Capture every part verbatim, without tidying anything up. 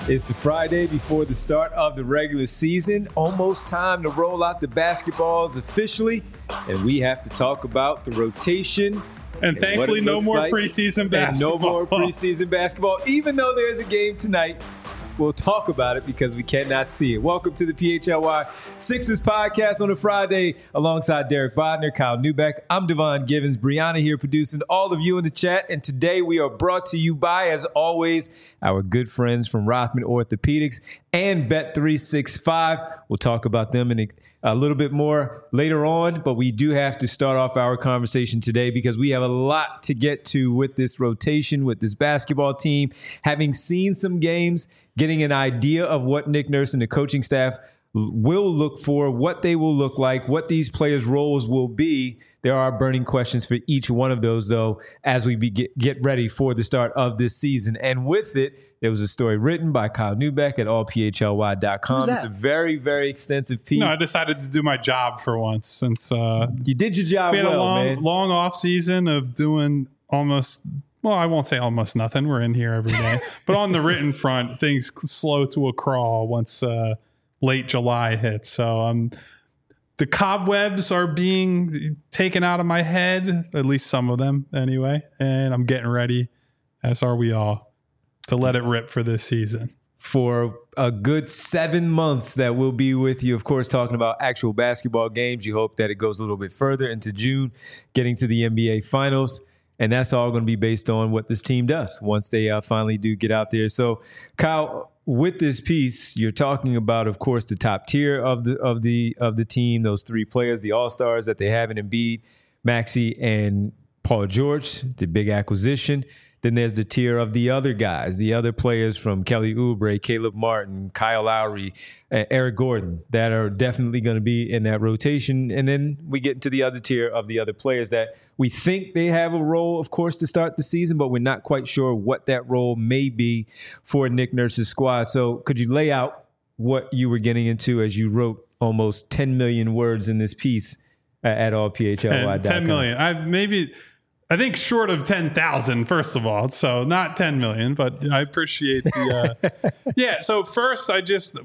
It's the Friday before the start of the regular season. Almost time to roll out the basketballs officially. And we have to talk about the rotation. And, and thankfully, no more like. preseason basketball. And no more preseason basketball. Even though there's a game tonight, we'll talk about it because we cannot see it. Welcome to the P H L Y Sixers podcast on a Friday alongside Derek Bodner, Kyle Neubeck. I'm Devon Givens. Brianna here producing all of you in the chat. And today we are brought to you by, as always, our good friends from Rothman Orthopedics and Bet three sixty-five. We'll talk about them in a, a little bit more later on, but we do have to start off our conversation today because we have a lot to get to with this rotation, with this basketball team. Having seen some games, getting an idea of what Nick Nurse and the coaching staff will look for, what they will look like, what these players' roles will be. There are burning questions for each one of those, though, as we be get, get ready for the start of this season. And with it, there was a story written by Kyle Neubeck at all p h l y dot com. It's a very, very extensive piece. No, I decided to do my job for once since uh, you did your job we had well, a long, man. long off season of doing almost. Well, I won't say almost nothing. We're in here every day. But on the written front, things slow to a crawl once uh, late July hits. So um, the cobwebs are being taken out of my head, at least some of them anyway. And I'm getting ready, as are we all, to let it rip for this season. For a good seven months that we'll be with you, of course, talking about actual basketball games. You hope that it goes a little bit further into June, getting to the N B A Finals. And that's all going to be based on what this team does once they uh, finally do get out there. So, Kyle, with this piece, you're talking about, of course, the top tier of the of the of the team. Those three players, the All Stars that they have in Embiid, Maxey, and Paul George, the big acquisition. Then there's the tier of the other guys, the other players from Kelly Oubre, Caleb Martin, Kyle Lowry, uh, Eric Gordon, that are definitely going to be in that rotation. And then we get into the other tier of the other players that we think they have a role, of course, to start the season, but we're not quite sure what that role may be for Nick Nurse's squad. So could you lay out what you were getting into as you wrote almost ten million words in this piece uh, at all p h l y dot com? ten million. I maybe... I think short of ten thousand, first of all. So not ten million, but I appreciate the, uh, yeah. So first I just,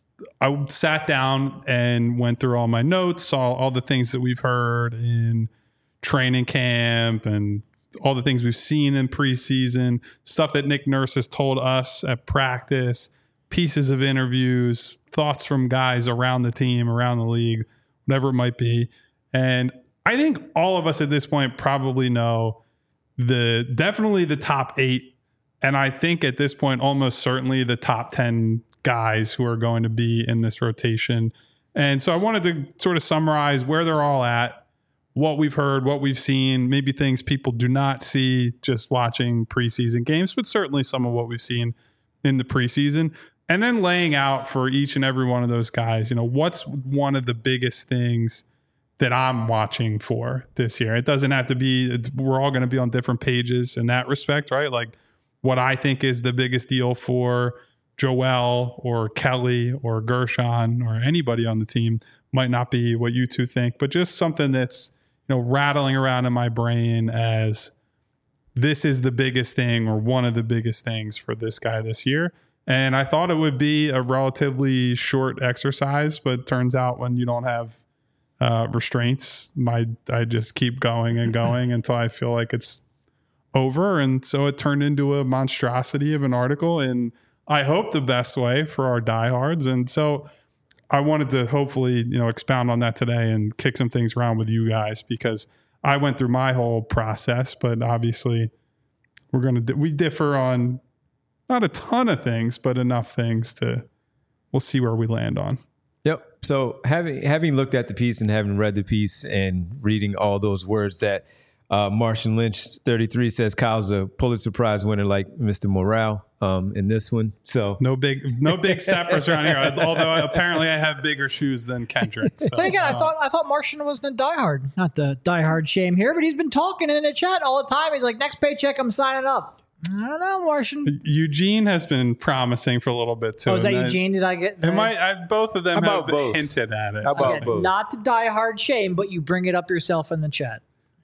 I sat down and went through all my notes, saw all the things that we've heard in training camp and all the things we've seen in preseason, stuff that Nick Nurse has told us at practice, pieces of interviews, thoughts from guys around the team, around the league, whatever it might be. And I think all of us at this point probably know the definitely the top eight. And I think at this point, almost certainly the top ten guys who are going to be in this rotation. And so I wanted to sort of summarize where they're all at, what we've heard, what we've seen, maybe things people do not see just watching preseason games, but certainly some of what we've seen in the preseason. And then laying out for each and every one of those guys, you know, what's one of the biggest things that I'm watching for this year. It doesn't have to be, we're all going to be on different pages in that respect, right? Like what I think is the biggest deal for Joel or Kelly or Gershon or anybody on the team might not be what you two think, but just something that's, you know, rattling around in my brain as this is the biggest thing or one of the biggest things for this guy this year. And I thought it would be a relatively short exercise, but it turns out when you don't have Uh, restraints, my I just keep going and going until I feel like it's over. And so it turned into a monstrosity of an article in, I hope, the best way for our diehards. And so I wanted to hopefully, you know, expound on that today and kick some things around with you guys because I went through my whole process, but obviously we're going to, we differ on not a ton of things, but enough things to, we'll see where we land on. Yep. So having having looked at the piece and having read the piece and reading all those words that uh, Martian Lynch thirty-three says Kyle's a Pulitzer Prize winner like Mister Morale um, in this one. So no big no big steppers around here. Although apparently I have bigger shoes than Kendrick. So, then again, uh, I thought I thought Martian wasn't a diehard. Not the diehard shame here, but he's been talking in the chat all the time. He's like, next paycheck, I'm signing up. I don't know, Martian. Eugene has been promising for a little bit too. Oh, is that Eugene? Did I get that? Am I, I, both of them have both? hinted at it. How about okay, both? Not the diehard shame, but you bring it up yourself in the chat.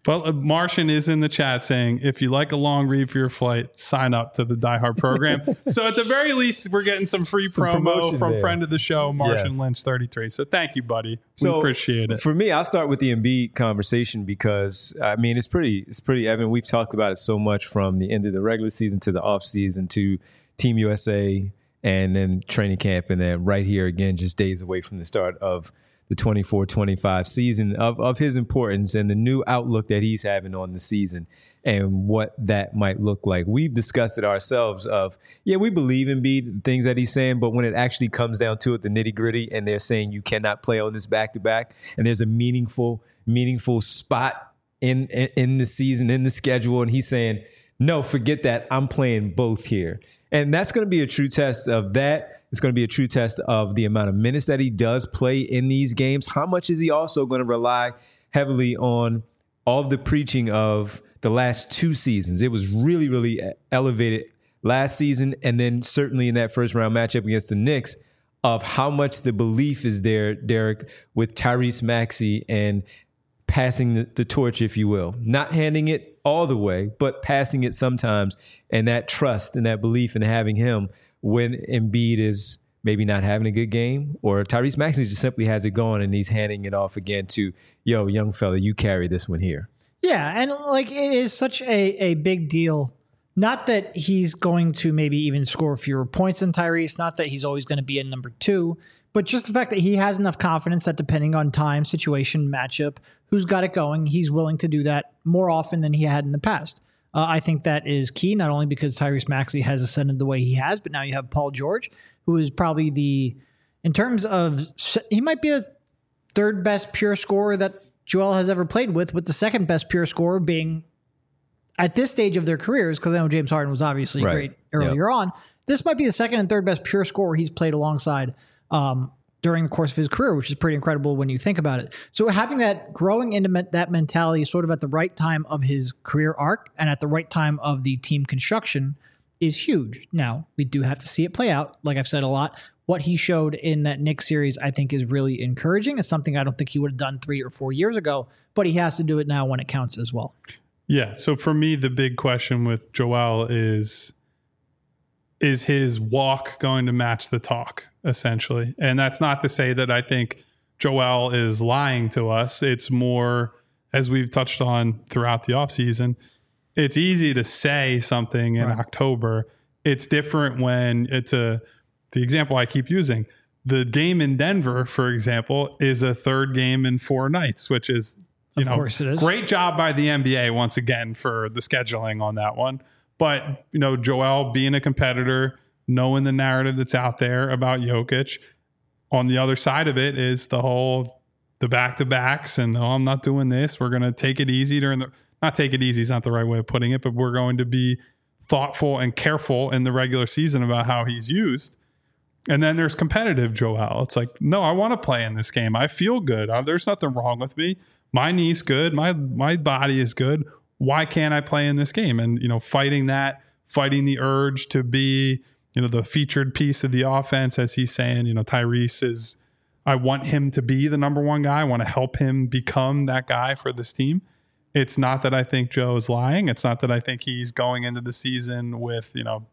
Well, uh, Martian is in the chat saying, if you like a long read for your flight, sign up to the Die Hard program. So at the very least, we're getting some free some promo from there. Friend of the show, Martian yes. Lynch thirty-three. So thank you, buddy. We so appreciate it. For me, I'll start with the Embiid conversation because, I mean, it's pretty, it's pretty evident. We've talked about it so much from the end of the regular season to the offseason to Team U S A and then training camp, and then right here again, just days away from the start of the twenty-four twenty-five season, of, of his importance and the new outlook that he's having on the season and what that might look like. We've discussed it ourselves of, yeah, we believe in Embiid, things that he's saying, but when it actually comes down to it, the nitty gritty, and they're saying you cannot play on this back to back, and there's a meaningful, meaningful spot in, in, in the season, in the schedule, and he's saying, no, forget that. I'm playing both here. And that's going to be a true test of that. It's going to be a true test of the amount of minutes that he does play in these games. How much is he also going to rely heavily on all of the preaching of the last two seasons? It was really, really elevated last season, and then certainly in that first round matchup against the Knicks, of how much the belief is there, Derek, with Tyrese Maxey and passing the, the torch, if you will. Not handing it all the way, but passing it sometimes, and that trust and that belief in having him when Embiid is maybe not having a good game, or Tyrese Maxey just simply has it going and he's handing it off again to, yo, young fella, you carry this one here. Yeah, and like it is such a, a big deal. Not that he's going to maybe even score fewer points than Tyrese, not that he's always going to be in number two, but just the fact that he has enough confidence that depending on time, situation, matchup, who's got it going, he's willing to do that more often than he had in the past. Uh, I think that is key, not only because Tyrese Maxey has ascended the way he has, but now you have Paul George, who is probably the, in terms of, he might be the third best pure scorer that Joel has ever played with, with the second best pure scorer being at this stage of their careers, because I know James Harden was obviously right. great earlier yep. on. This might be the second and third best pure scorer he's played alongside um, during the course of his career, which is pretty incredible when you think about it. So having that growing into me- that mentality sort of at the right time of his career arc and at the right time of the team construction is huge. Now, we do have to see it play out. Like I've said a lot, what he showed in that Knicks series, I think is really encouraging. It's something I don't think he would have done three or four years ago, but he has to do it now when it counts as well. Yeah. So for me, the big question with Joel is, is his walk going to match the talk, essentially? And that's not to say that I think Joel is lying to us. It's more, as we've touched on throughout the offseason, it's easy to say something in right. October. It's different when it's a, the example I keep using, the game in Denver, for example, is a third game in four nights, which is, you of know, course it is. Great job by the N B A once again for the scheduling on that one. But, you know, Joel being a competitor, knowing the narrative that's out there about Jokic, on the other side of it is the whole, the back-to-backs and, oh, I'm not doing this. We're going to take it easy during the, not take it easy is not the right way of putting it, but we're going to be thoughtful and careful in the regular season about how he's used. And then there's competitive Joel. It's like, no, I want to play in this game. I feel good. Uh, there's nothing wrong with me. My knee's good. My my body is good. Why can't I play in this game? And, you know, fighting that, fighting the urge to be, you know, the featured piece of the offense, as he's saying, you know, Tyrese is, I want him to be the number one guy. I want to help him become that guy for this team. It's not that I think Joe is lying. It's not that I think he's going into the season with, you know,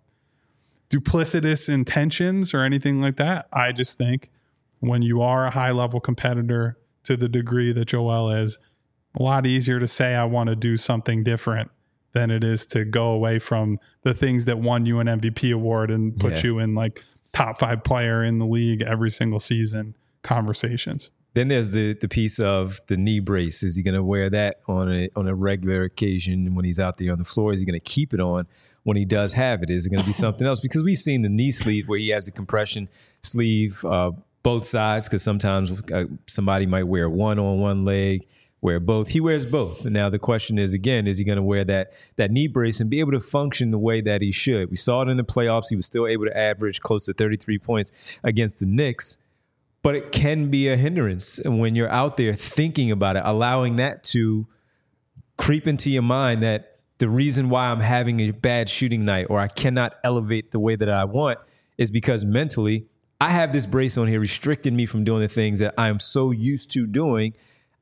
duplicitous intentions or anything like that. I just think when you are a high level competitor to the degree that Joel is, a lot easier to say I want to do something different than it is to go away from the things that won you an M V P award and put yeah. you in like top five player in the league every single season conversations. Then there's the the piece of the knee brace. Is he going to wear that on a on a regular occasion when he's out there on the floor? Is he going to keep it on when he does have it? Is it going to be something else? Because we've seen the knee sleeve where he has the compression sleeve, uh, both sides, because sometimes uh, somebody might wear one on one leg, wear both. He wears both. And now the question is, again, is he going to wear that that knee brace and be able to function the way that he should? We saw it in the playoffs. He was still able to average close to thirty-three points against the Knicks. But it can be a hindrance when you're out there thinking about it, allowing that to creep into your mind that the reason why I'm having a bad shooting night or I cannot elevate the way that I want is because mentally I have this brace on here restricting me from doing the things that I am so used to doing.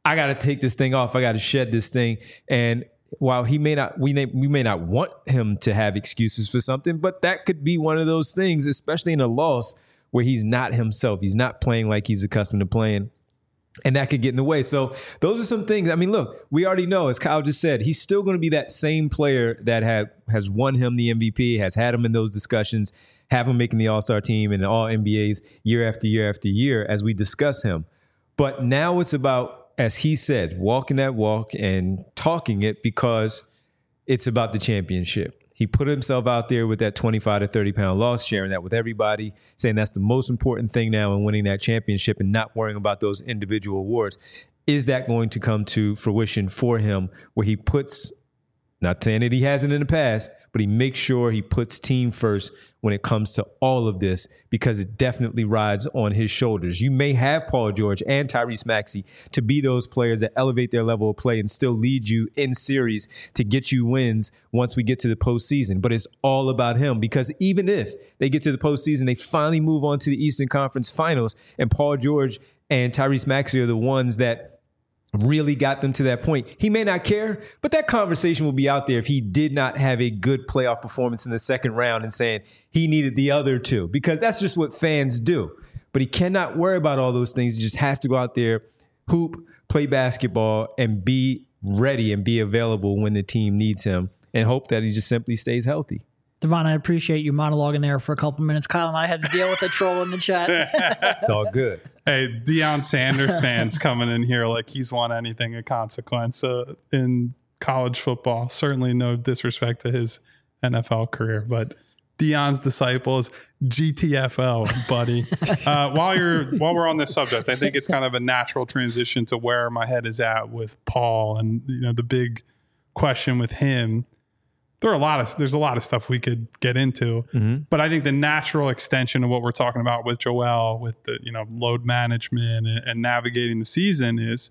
I got to take this thing off. I got to shed this thing. And while he may not, we may, we may not want him to have excuses for something, but that could be one of those things, especially in a loss where he's not himself. He's not playing like he's accustomed to playing. And that could get in the way. So those are some things. I mean, look, we already know, as Kyle just said, he's still going to be that same player that had, has won him the M V P, has had him in those discussions, have him making the All-Star team and all N B As year after year after year as we discuss him. But now it's about, as he said, walking that walk and talking it, because it's about the championship. He put himself out there with that twenty-five to thirty pound loss, sharing that with everybody, saying that's the most important thing now in winning that championship and not worrying about those individual awards. Is that going to come to fruition for him, where he puts, not saying that he hasn't in the past, but he makes sure he puts team first when it comes to all of this, because it definitely rides on his shoulders. You may have Paul George and Tyrese Maxey to be those players that elevate their level of play and still lead you in series to get you wins once we get to the postseason. But it's all about him, because even if they get to the postseason, they finally move on to the Eastern Conference Finals, and Paul George and Tyrese Maxey are the ones that really got them to that point. He may not care, but that conversation will be out there if he did not have a good playoff performance in the second round and saying he needed the other two, because that's just what fans do. But he cannot worry about all those things. He just has to go out there, hoop, play basketball, and be ready and be available when the team needs him, and hope that he just simply stays healthy. Devon, I appreciate you monologuing there for a couple minutes. Kyle and I had to deal with the troll in the chat. It's all good. Hey, Deion Sanders fans coming in here like he's won anything of consequence uh, in college football. Certainly no disrespect to his N F L career, but Deion's disciples, G T F O, buddy. uh, while you're while we're on this subject, I think it's kind of a natural transition to where my head is at with Paul, and you know the big question with him. There are a lot of there's a lot of stuff we could get into, mm-hmm. but I think the natural extension of what we're talking about with Joel, with the you know load management and, and navigating the season, is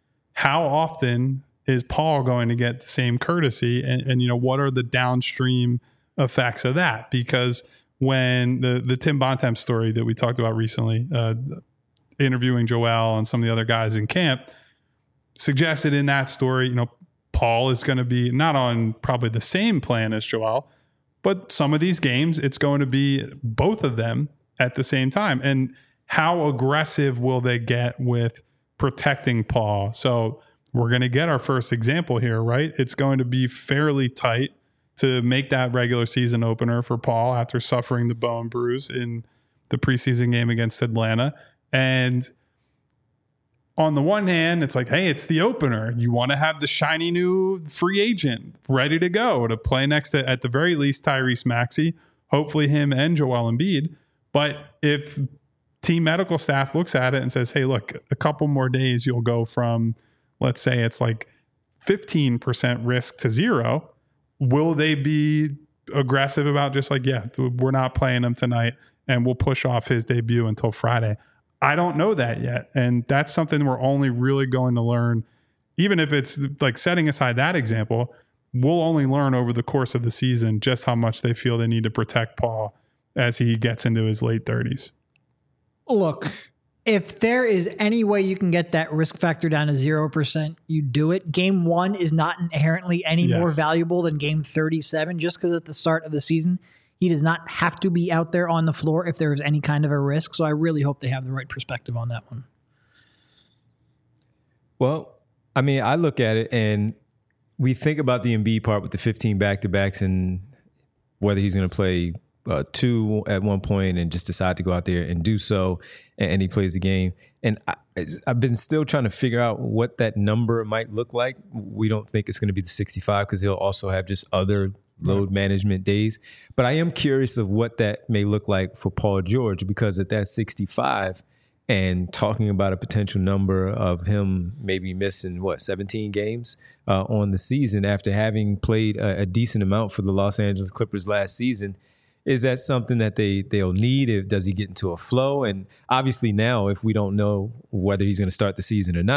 how often is Paul going to get the same courtesy, and, and you know what are the downstream effects of that? Because when the the Tim Bontemps story that we talked about recently, uh, interviewing Joel and some of the other guys in camp, suggested in that story, you know. Paul is going to be not on probably the same plan as Joel, but some of these games, it's going to be both of them at the same time. And how aggressive will they get with protecting Paul? So we're going to get our first example here, right? It's going to be fairly tight to make that regular season opener for Paul after suffering the bone bruise in the preseason game against Atlanta. And on the one hand, it's like, hey, it's the opener. You want to have the shiny new free agent ready to go to play next to, at the very least, Tyrese Maxey, hopefully him and Joel Embiid. But if team medical staff looks at it and says, hey, look, a couple more days, you'll go from, let's say it's like fifteen percent risk to zero. Will they be aggressive about just like, yeah, we're not playing him tonight and we'll push off his debut until Friday? I don't know that yet. And that's something we're only really going to learn. Even if it's like setting aside that example, we'll only learn over the course of the season just how much they feel they need to protect Paul as he gets into his late thirties. Look, if there is any way you can get that risk factor down to zero percent, you do it. Game one is not inherently any yes. more valuable than game thirty-seven, just because at the start of the season, he does not have to be out there on the floor if there is any kind of a risk. So I really hope they have the right perspective on that one. Well, I mean, I look at it and we think about the Embiid part with the fifteen back-to-backs and whether he's going to play uh, two at one point and just decide to go out there and do so, and, and he plays the game. And I, I've been still trying to figure out what that number might look like. We don't think it's going to be the sixty-five because he'll also have just other load management days. But I am curious of what that may look like for Paul George, because at that sixty-five and talking about a potential number of him maybe missing, what, seventeen games uh, on the season after having played a, a decent amount for the Los Angeles Clippers last season. Is that something that they, they'll need? If, does he get into a flow? And obviously now, if we don't know whether he's going to start the season or not,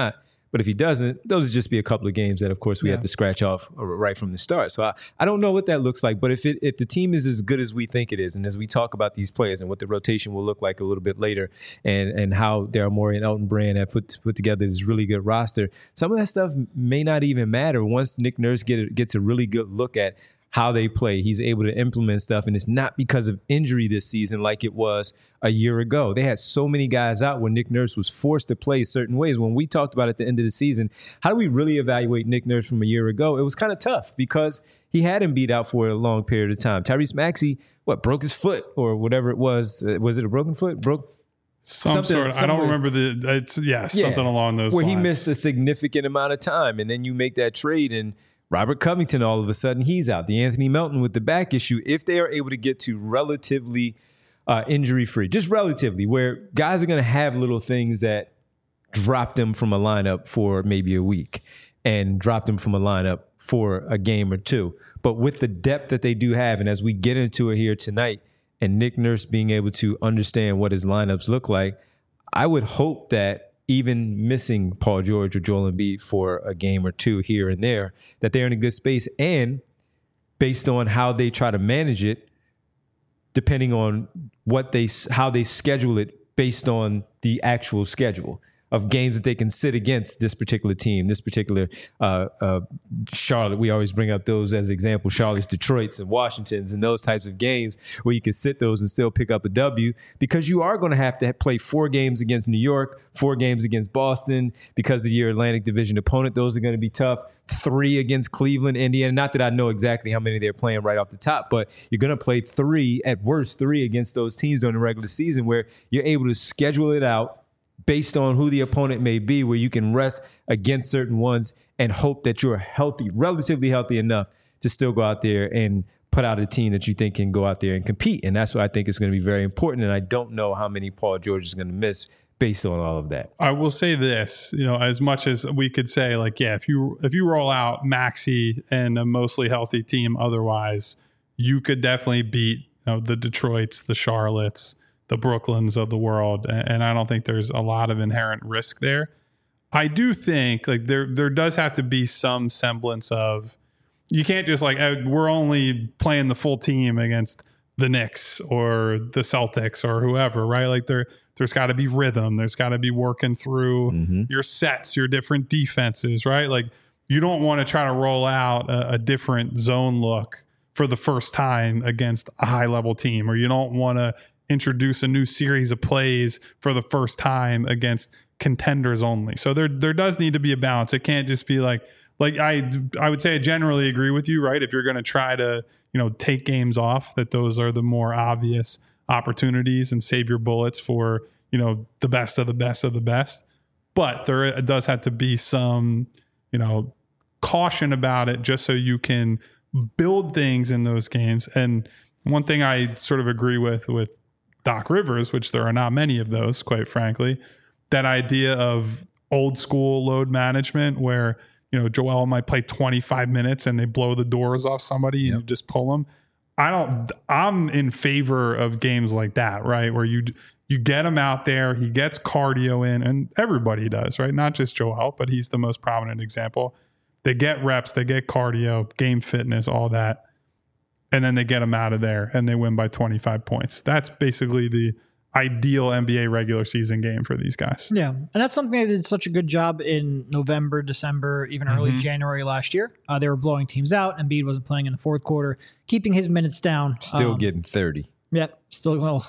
But if he doesn't, those would just be a couple of games that, of course, we Yeah. have to scratch off right from the start. So I, I don't know what that looks like. But if it if the team is as good as we think it is, and as we talk about these players and what the rotation will look like a little bit later, and and how Daryl Morey and Elton Brand have put put together this really good roster, some of that stuff may not even matter once Nick Nurse get, gets a really good look at how they play. He's able to implement stuff, and it's not because of injury this season like it was a year ago. They had so many guys out when Nick Nurse was forced to play certain ways. When we talked about at the end of the season, how do we really evaluate Nick Nurse from a year ago? It was kind of tough because he had him beat out for a long period of time. Tyrese Maxey, what, broke his foot or whatever it was. Uh, was it a broken foot? Broke Some something- sort. Of, I somewhere- don't remember the. It's yeah, Yeah. something along those where lines. he missed a significant amount of time, and then you make that trade, and Robert Covington, all of a sudden, he's out. The Anthony Melton with the back issue, if they are able to get to relatively uh, injury-free, just relatively, where guys are going to have little things that drop them from a lineup for maybe a week and drop them from a lineup for a game or two. But with the depth that they do have, and as we get into it here tonight, and Nick Nurse being able to understand what his lineups look like, I would hope that even missing Paul George or Joel Embiid for a game or two here and there, that they're in a good space. And based on how they try to manage it, depending on what they how they schedule it based on the actual schedule of games that they can sit against this particular team, this particular uh, uh, Charlotte. We always bring up those as examples, Charlotte's, Detroit's, and Washington's, and those types of games where you can sit those and still pick up a W, because you are going to have to play four games against New York, four games against Boston because of your Atlantic Division opponent. Those are going to be tough. Three against Cleveland, Indiana. Not that I know exactly how many they're playing right off the top, but you're going to play three, at worst three, against those teams during the regular season, where you're able to schedule it out based on who the opponent may be, where you can rest against certain ones and hope that you're healthy, relatively healthy enough to still go out there and put out a team that you think can go out there and compete. And that's what I think is going to be very important. And I don't know how many Paul George is going to miss based on all of that. I will say this, you know, as much as we could say, like, yeah, if you if you roll out Maxey and a mostly healthy team, otherwise, you could definitely beat, you know, the Detroits, the Charlottes, the Brooklyns of the world, and I don't think there's a lot of inherent risk there. I do think like there there does have to be some semblance of, you can't just like, oh, we're only playing the full team against the Knicks or the Celtics or whoever, right? Like there there's got to be rhythm. There's got to be working through mm-hmm. your sets, your different defenses, right? Like you don't want to try to roll out a, a different zone look for the first time against a high level team, or you don't want to introduce a new series of plays for the first time against contenders only. So there there does need to be a balance. It can't just be like like I I would say I generally agree with you, right? If you're going to try to, you know, take games off, that those are the more obvious opportunities and save your bullets for, you know, the best of the best of the best. But there does have to be some, you know, caution about it, just so you can build things in those games. And one thing I sort of agree with with Doc Rivers, which there are not many of those, quite frankly, that idea of old school load management where, you know, Joel might play twenty-five minutes and they blow the doors off somebody and yep. you just pull them. I don't, I'm in favor of games like that, right? Where you, you get him out there, he gets cardio in, and everybody does, right? Not just Joel, but he's the most prominent example. They get reps, they get cardio, game fitness, all that. And then they get them out of there and they win by twenty-five points. That's basically the ideal N B A regular season game for these guys. Yeah. And that's something they did such a good job in November, December, even early mm-hmm. January last year. Uh, they were blowing teams out. Embiid wasn't playing in the fourth quarter, keeping his minutes down. Still um, getting thirty. Yep. Still, well,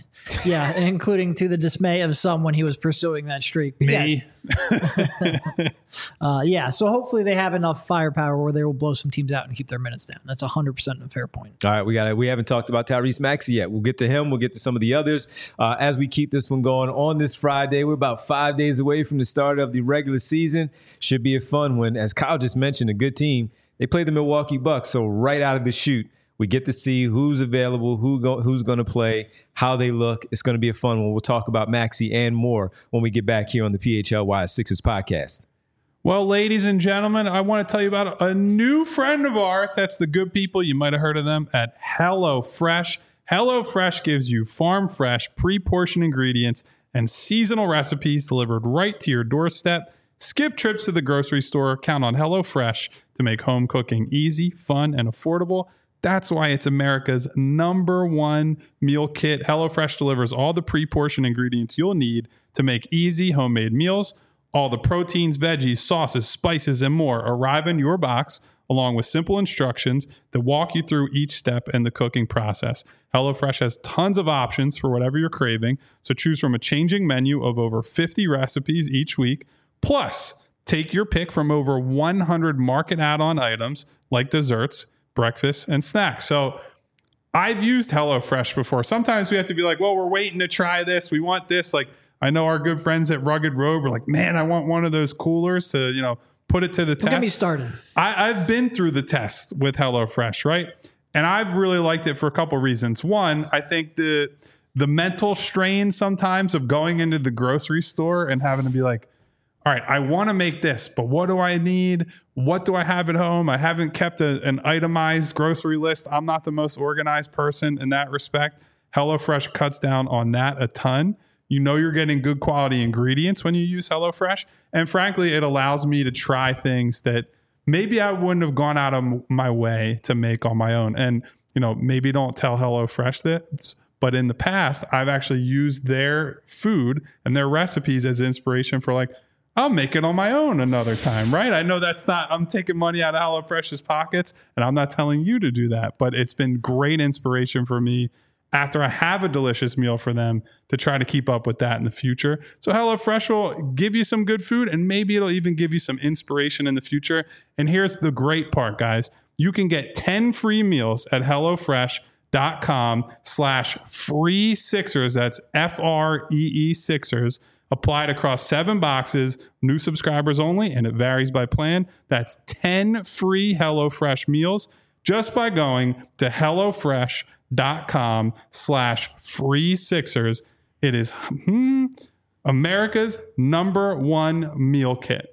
yeah. Including to the dismay of some when he was pursuing that streak. But Me. Yes. uh, yeah. So hopefully they have enough firepower where they will blow some teams out and keep their minutes down. That's one hundred percent a fair point. All right. We got it. We haven't talked about Tyrese Maxey yet. We'll get to him. We'll get to some of the others uh, as we keep this one going on this Friday. We're about five days away from the start of the regular season. Should be a fun one. As Kyle just mentioned, a good team. They play the Milwaukee Bucks. So right out of the chute, we get to see who's available, who go, who's going to play, how they look. It's going to be a fun one. We'll talk about Maxey and more when we get back here on the P H L Y Sixers podcast. Well, ladies and gentlemen, I want to tell you about a new friend of ours. That's the good people. You might have heard of them at HelloFresh. HelloFresh gives you farm fresh, pre-portioned ingredients and seasonal recipes delivered right to your doorstep. Skip trips to the grocery store. Count on HelloFresh to make home cooking easy, fun, and affordable. That's why it's America's number one meal kit. HelloFresh delivers all the pre-portioned ingredients you'll need to make easy homemade meals. All the proteins, veggies, sauces, spices, and more arrive in your box, along with simple instructions that walk you through each step in the cooking process. HelloFresh has tons of options for whatever you're craving, so choose from a changing menu of over fifty recipes each week. Plus, take your pick from over one hundred market add-on items like desserts, breakfast, and snacks. So I've used HelloFresh before. Sometimes we have to be like, well, we're waiting to try this. We want this. Like, I know our good friends at Rugged Road were like, man, I want one of those coolers to, you know, put it to the Don't test. get me started. I, I've been through the test with HelloFresh, right? And I've really liked it for a couple reasons. One, I think the the mental strain sometimes of going into the grocery store and having to be like, all right, I want to make this, but what do I need? What do I have at home? I haven't kept a, an itemized grocery list. I'm not the most organized person in that respect. HelloFresh cuts down on that a ton. You know you're getting good quality ingredients when you use HelloFresh. And frankly, it allows me to try things that maybe I wouldn't have gone out of my way to make on my own. And, you know, maybe don't tell HelloFresh this, but in the past, I've actually used their food and their recipes as inspiration for like, I'll make it on my own another time, right? I know that's not, I'm taking money out of HelloFresh's pockets, and I'm not telling you to do that, but it's been great inspiration for me after I have a delicious meal for them to try to keep up with that in the future. So HelloFresh will give you some good food, and maybe it'll even give you some inspiration in the future. And here's the great part, guys. You can get ten free meals at HelloFresh.com slash free Sixers. That's F R E E Sixers. Applied across seven boxes, new subscribers only, and it varies by plan. That's ten free HelloFresh meals just by going to HelloFresh.com slash free Sixers. It is hmm, America's number one meal kit.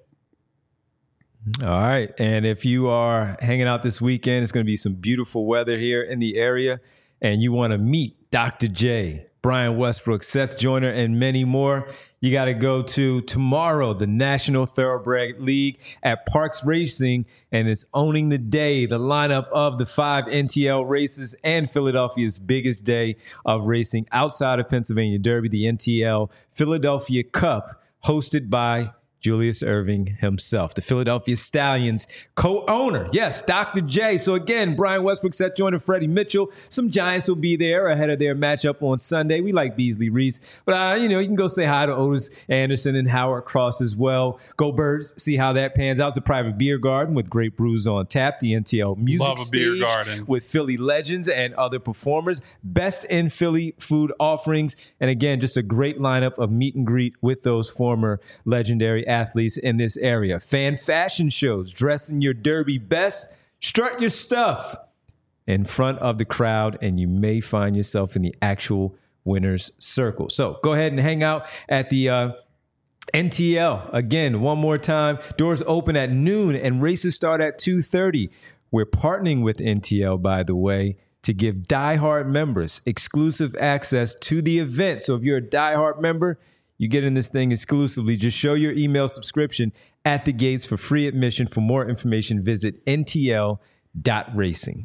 All right. And if you are hanging out this weekend, it's going to be some beautiful weather here in the area, and you want to meet Doctor J, Brian Westbrook, Seth Joyner, and many more, you got to go to tomorrow, the National Thoroughbred League at Parks Racing, and it's owning the day, the lineup of the five N T L races and Philadelphia's biggest day of racing outside of Pennsylvania Derby, the N T L Philadelphia Cup, hosted by Julius Erving himself, the Philadelphia Stallions co-owner. Yes, Doctor J. So again, Brian Westbrook, Seth Joyner, Freddie Mitchell. Some Giants will be there ahead of their matchup on Sunday. We like Beasley Reese. But, uh, you know, you can go say hi to Otis Anderson and Howard Cross as well. Go Birds, see how that pans out. It's a private beer garden with great brews on tap. The N T L Music Love a beer Stage garden. with Philly legends and other performers. Best in Philly food offerings. And again, just a great lineup of meet and greet with those former legendary athletes in this area. Fan fashion shows, dressing your derby best, strut your stuff in front of the crowd, and you may find yourself in the actual winner's circle. So go ahead and hang out at the uh, N T L. Again, one more time, doors open at noon and races start at two thirty. We're partnering with N T L, by the way, to give diehard members exclusive access to the event. So if you're a diehard member, you get in this thing exclusively. Just show your email subscription at the gates for free admission. For more information, visit N T L dot racing.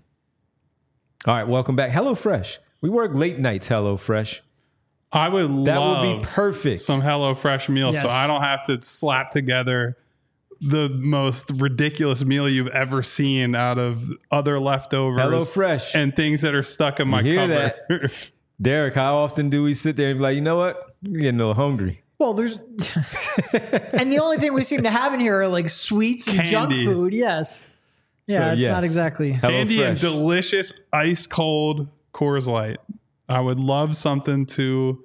All right, welcome back. HelloFresh. We work late nights, HelloFresh. I would That love would be perfect. some HelloFresh meals so Yes. I don't have to slap together the most ridiculous meal you've ever seen out of other leftovers. HelloFresh. And things that are stuck in my You hear cupboard. Derek, how often do we sit there and be like, you know what? I'm getting a little hungry. Well, there's, and the only thing we seem to have in here are like sweets and junk Candy. food. Yes. Yeah, So, it's yes. not exactly. Candy and HelloFresh. delicious ice cold Coors Light. I would love something to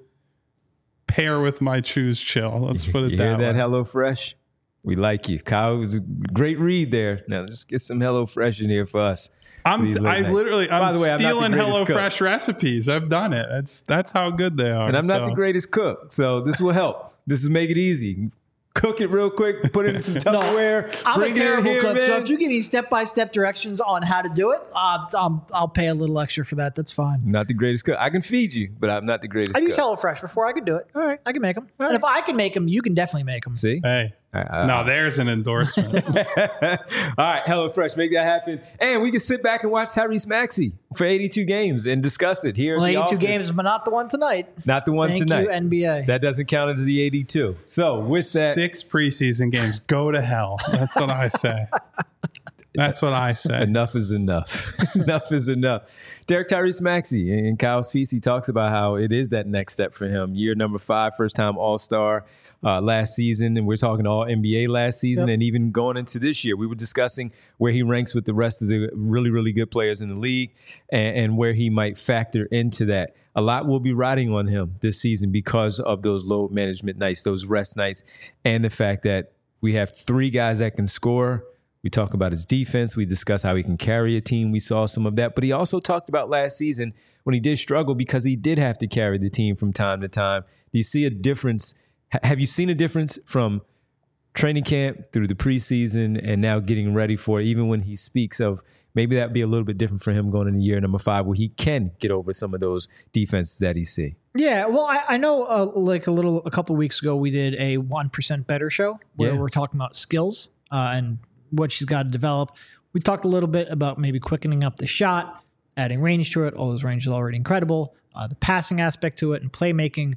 pair with my Choose Chill. Let's put it You that hear that, way. HelloFresh? We like you. Kyle, it was a great read there. Now, let's get some HelloFresh in here for us. I'm These late I nights. literally I'm By the way, I'm not the stealing greatest cook. HelloFresh recipes. I've done it. It's that's how good they are. And I'm not so. the greatest cook, so this will help. This will make it easy. Cook it real quick, put it in some Tupperware, I'm bring a it in terrible here, cook, so man. if you give me step-by-step directions on how to do it, uh, um, I'll pay a little extra for that. That's fine. Not the greatest cook. I can feed you, but I'm not the greatest I cook. used HelloFresh before. I could do it. All right. I can make them. All And right. if I can make them, you can definitely make them. See? Hey, Uh, no, there's an endorsement. All right, HelloFresh, make that happen. And we can sit back and watch Tyrese Maxey for eighty-two games and discuss it here. Well, in the eighty-two office. games, but not the one tonight. Not the one Thank tonight. you, N B A. That doesn't count as the eighty-two. So with that, Six preseason games. Go to hell. That's what I say. That's what I say. enough is enough. enough is enough. Derek Tyrese Maxey and Kyle Speece, he talks about how it is that next step for him. Year number five, first time All-Star uh, last season, and we're talking all N B A last season, Yep. and even going into this year. We were discussing where he ranks with the rest of the really, really good players in the league and, and where he might factor into that. A lot will be riding on him this season because of those load management nights, those rest nights, and the fact that we have three guys that can score. We talk about his defense. We discuss how he can carry a team. We saw some of that. But he also talked about last season when he did struggle because he did have to carry the team from time to time. Do you see a difference? H- have you seen a difference from training camp through the preseason and now getting ready for it, even when he speaks of maybe that'd be a little bit different for him going into year number five where he can get over some of those defenses that he see? Yeah, well, I, I know uh, like a little, a couple of weeks ago, we did a one percent Better show where Yeah. we're talking about skills uh, and what she's got to develop. We talked a little bit about maybe quickening up the shot, adding range to it. All those range is already incredible. Uh, the passing aspect to it and playmaking.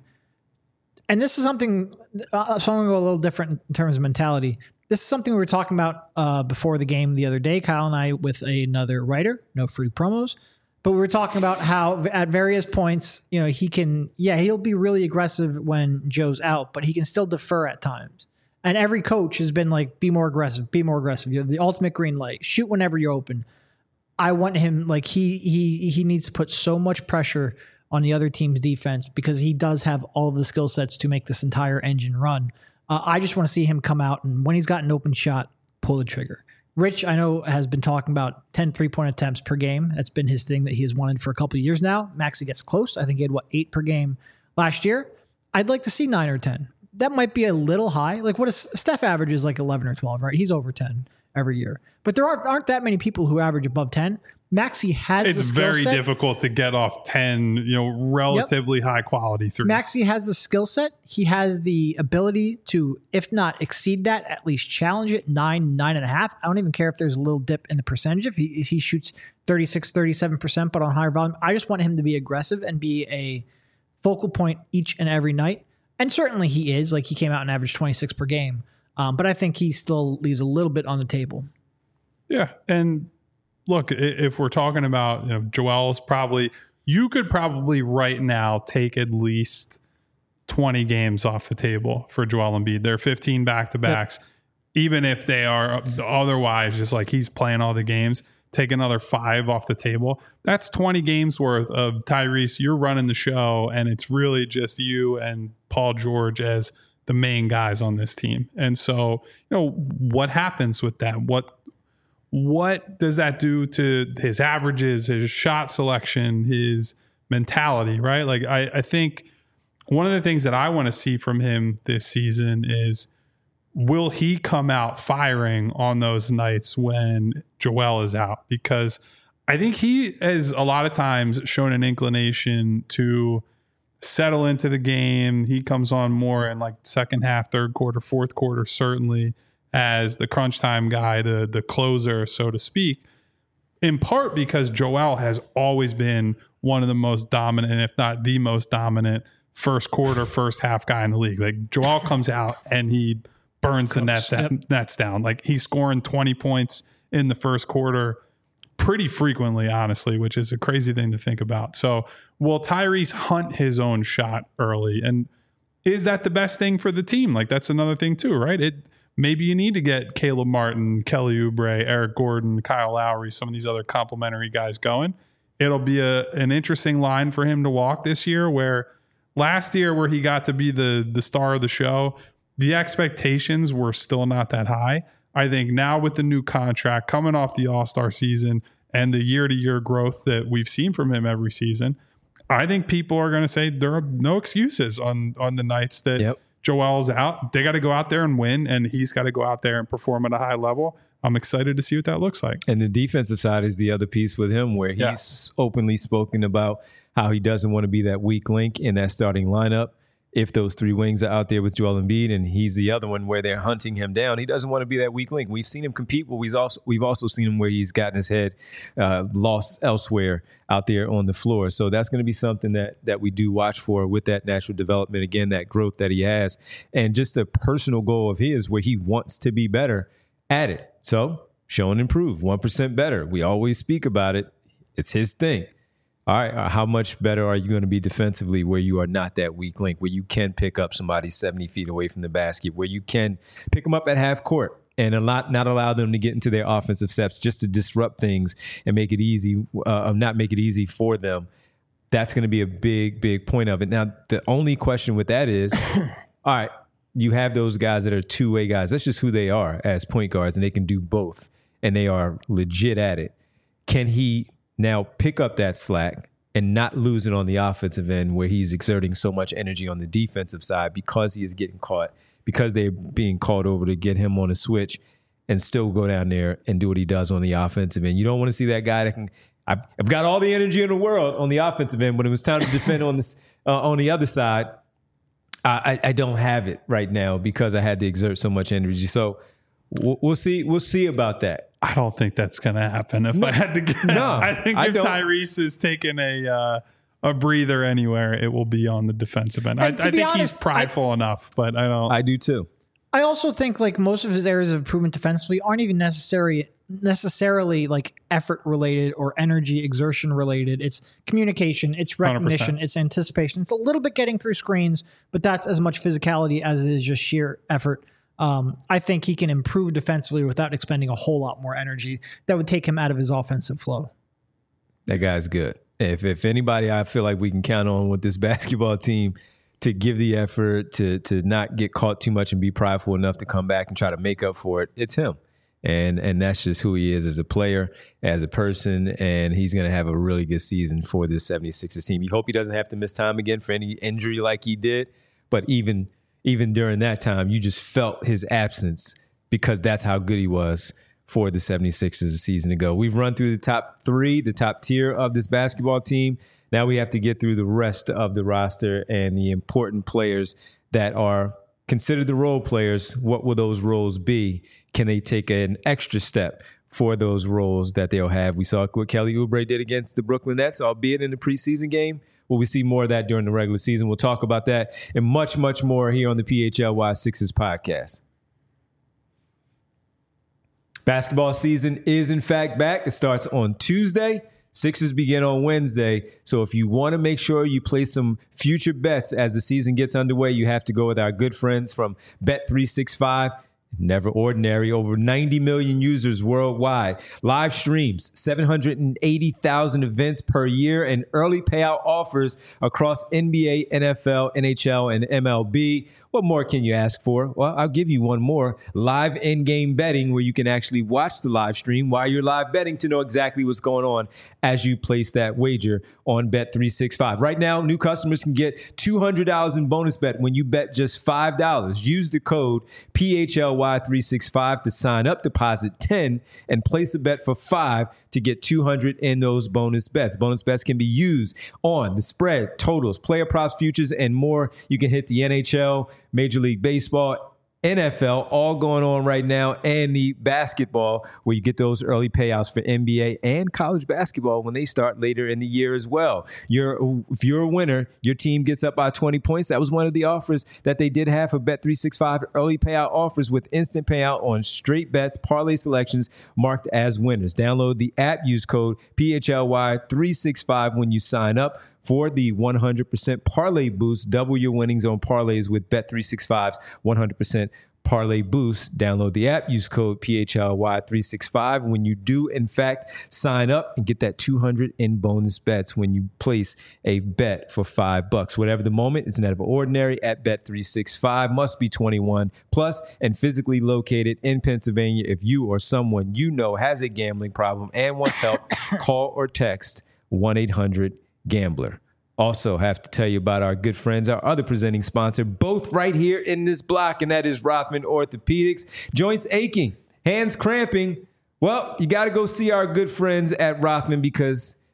And this is something, uh, so I'm going to go a little different in terms of mentality. This is something we were talking about uh, before the game the other day, Kyle and I, with another writer, no free promos. But we were talking about how at various points, you know, he can, yeah, he'll be really aggressive when Joe's out, but he can still defer at times. And every coach has been like, be more aggressive, be more aggressive. You have the ultimate green light, shoot whenever you're open. I want him, like he he he needs to put so much pressure on the other team's defense because he does have all of the skill sets to make this entire engine run. Uh, I just want to see him come out and when he's got an open shot, pull the trigger. Rich, I know, has been talking about ten three-point attempts per game. That's been his thing that he has wanted for a couple of years now. Maxey gets close. I think he had, what, eight per game last year. I'd like to see nine or ten. That might be a little high. Like what is Steph averages like eleven or twelve, right? He's over ten every year. But there aren't, aren't that many people who average above ten. Maxey has the It's skill very set. difficult to get off ten, you know, relatively high quality threes. Maxey has the skill set. He has the ability to, if not exceed that, at least challenge it nine, nine and a half. I don't even care if there's a little dip in the percentage. If he, if he shoots thirty-six, thirty-seven percent, but on higher volume, I just want him to be aggressive and be a focal point each and every night. And certainly he is. Like he came out and averaged twenty-six per game. Um, but I think he still leaves a little bit on the table. Yeah. And look, if we're talking about, you know, Joel's probably, you could probably right now take at least twenty games off the table for Joel Embiid. They're fifteen back-to-backs. Yep. Even if they are otherwise just like he's playing all the games, take another five off the table. That's twenty games worth of Tyrese. You're running the show, and it's really just you and Paul George as the main guys on this team. And so, you know, what happens with that? What What does that do to his averages, his shot selection, his mentality, right? Like, I, I think one of the things that I want to see from him this season is, will he come out firing on those nights when Joel is out? Because I think he has a lot of times shown an inclination to settle into the game. He comes on more in like second half, third quarter, fourth quarter, certainly, as the crunch time guy, the the closer, so to speak, in part because Joel has always been one of the most dominant, if not the most dominant, first quarter, first half guy in the league. Like Joel comes out and he burns the net that, yep. nets down. Like he's scoring twenty points in the first quarter pretty frequently, honestly, which is a crazy thing to think about. So will Tyrese hunt his own shot early? And is that the best thing for the team? Like that's another thing too, right? It maybe you need to get Caleb Martin, Kelly Oubre, Eric Gordon, Kyle Lowry, some of these other complimentary guys going. It'll be a an interesting line for him to walk this year, where last year where he got to be the the star of the show, the expectations were still not that high. I think now with the new contract coming off the All-Star season and the year-to-year growth that we've seen from him every season, I think people are going to say there are no excuses on on the nights that yep. Joel's out. They got to go out there and win, and he's got to go out there and perform at a high level. I'm excited to see what that looks like. And the defensive side is the other piece with him, where he's yeah. openly spoken about how he doesn't want to be that weak link in that starting lineup. if those three wings are out there with Joel Embiid and he's the other one where they're hunting him down, he doesn't want to be that weak link. We've seen him compete, but we've also we've also seen him where he's gotten his head uh, lost elsewhere out there on the floor. So that's going to be something that that we do watch for with that natural development, again, that growth that he has, and just a personal goal of his where he wants to be better at it. So show and improve, one percent better. We always speak about it. It's his thing. All right, how much better are you going to be defensively where you are not that weak link, where you can pick up somebody seventy feet away from the basket, where you can pick them up at half court and a lot, not allow them to get into their offensive steps just to disrupt things and make it easy, uh, not make it easy for them. That's going to be a big, big point of it. Now, the only question with that is, all right, you have those guys that are two-way guys. That's just who they are as point guards, and they can do both, and they are legit at it. Can he now pick up that slack and not lose it on the offensive end where he's exerting so much energy on the defensive side because he is getting caught, because they're being called over to get him on a switch, and still go down there and do what he does on the offensive end? You don't want to see that guy that can, I've, I've got all the energy in the world on the offensive end, but it was time to defend on this uh, on the other side. I, I don't have it right now because I had to exert so much energy. So we'll, we'll see. We'll see about that. I don't think that's going to happen. If No. I had to guess, No, I think I if don't. Tyrese is taking a uh, a breather anywhere, it will be on the defensive end. I, And to I be think honest, he's prideful enough, but I don't. I do too. I also think like most of his areas of improvement defensively aren't even necessary necessarily like effort related or energy exertion related. It's communication, it's recognition, one hundred percent. it's anticipation. It's a little bit getting through screens, but that's as much physicality as it is just sheer effort. Um, I think he can improve defensively without expending a whole lot more energy that would take him out of his offensive flow. That guy's good. If if anybody I feel like we can count on with this basketball team to give the effort, to to not get caught too much and be prideful enough to come back and try to make up for it, it's him. And and that's just who he is as a player, as a person, and he's going to have a really good season for this seventy-sixers team. You hope he doesn't have to miss time again for any injury like he did, but even even during that time, you just felt his absence because that's how good he was for the seventy-sixers a season ago. We've run through the top three, the top tier of this basketball team. Now we have to get through the rest of the roster and the important players that are considered the role players. What will those roles be? Can they take an extra step for those roles that they'll have? We saw what Kelly Oubre did against the Brooklyn Nets, albeit in the preseason game. Will we see more of that during the regular season? We'll talk about that and much, much more here on the P H L Y Sixers podcast. Basketball season is, in fact, back. It starts on Tuesday. Sixers begin on Wednesday. So if you want to make sure you place some future bets as the season gets underway, you have to go with our good friends from Bet three sixty-five. Never ordinary. Over ninety million users worldwide. Live streams, seven hundred eighty thousand events per year, and early payout offers across N B A, N F L, N H L, and M L B. What more can you ask for? Well, I'll give you one more. Live in-game betting, where you can actually watch the live stream while you're live betting to know exactly what's going on as you place that wager on Bet three sixty-five. Right now, new customers can get two hundred dollars in bonus bet when you bet just five dollars. Use the code P H L Y three sixty-five to sign up, deposit ten, and place a bet for five to get two hundred in those bonus bets. Bonus bets can be used on the spread, totals, player props, futures, and more. You can hit the N H L, Major League Baseball, N F L, all going on right now, and the basketball, where you get those early payouts for N B A and college basketball when they start later in the year as well. You're, if you're a winner, your team gets up by twenty points. That was one of the offers that they did have for Bet three sixty-five, early payout offers with instant payout on straight bets, parlay selections marked as winners. Download the app, use code P H L Y three sixty-five when you sign up for the one hundred percent parlay boost. Double your winnings on parlays with Bet three sixty-five's one hundred percent parlay boost. Download the app, use code P H L Y three sixty-five when you do, in fact, sign up and get that two hundred in bonus bets when you place a bet for five bucks. Whatever the moment, it's never ordinary at Bet three sixty-five. Must be twenty-one plus and physically located in Pennsylvania. If you or someone you know has a gambling problem and wants help, call or text one eight hundred gambler. Also have to tell you about our good friends, our other presenting sponsor, both right here in this block, and that is Rothman Orthopedics. Joints aching, hands cramping. Well, you got to go see our good friends at Rothman because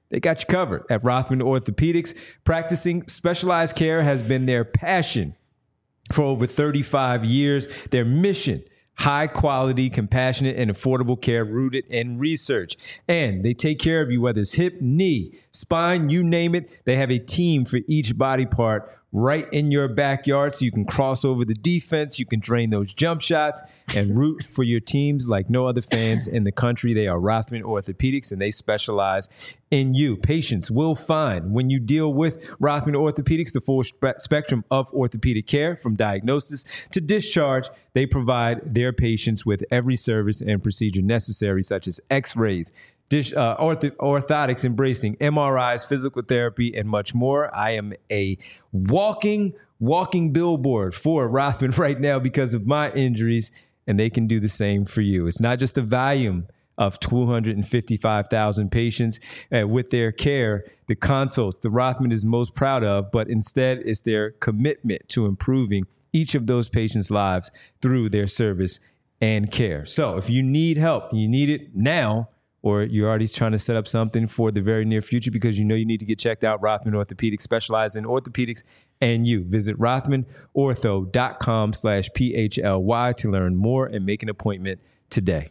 they got you covered. At Rothman Orthopedics, practicing specialized care has been their passion for over thirty-five years. Their mission, high quality, compassionate, and affordable care rooted in research. And they take care of you, whether it's hip, knee, spine, you name it. They have a team for each body part right in your backyard, so you can cross over the defense, you can drain those jump shots, and root for your teams like no other fans in the country. They are Rothman Orthopedics, and they specialize in you. Patients will find when you deal with Rothman Orthopedics the full spe- spectrum of orthopedic care, from diagnosis to discharge. They provide their patients with every service and procedure necessary, such as x-rays, Dish, uh, ortho, orthotics, embracing M R Is, physical therapy, and much more. I am a walking, walking billboard for Rothman right now because of my injuries, and they can do the same for you. It's not just the volume of two hundred fifty-five thousand patients uh, with their care, the consults the Rothman is most proud of, but instead it's their commitment to improving each of those patients' lives through their service and care. So if you need help, you need it now, or you're already trying to set up something for the very near future because you know you need to get checked out, Rothman Orthopedics, specialized in orthopedics and you. Visit rothmanortho.com slash PHLY to learn more and make an appointment today.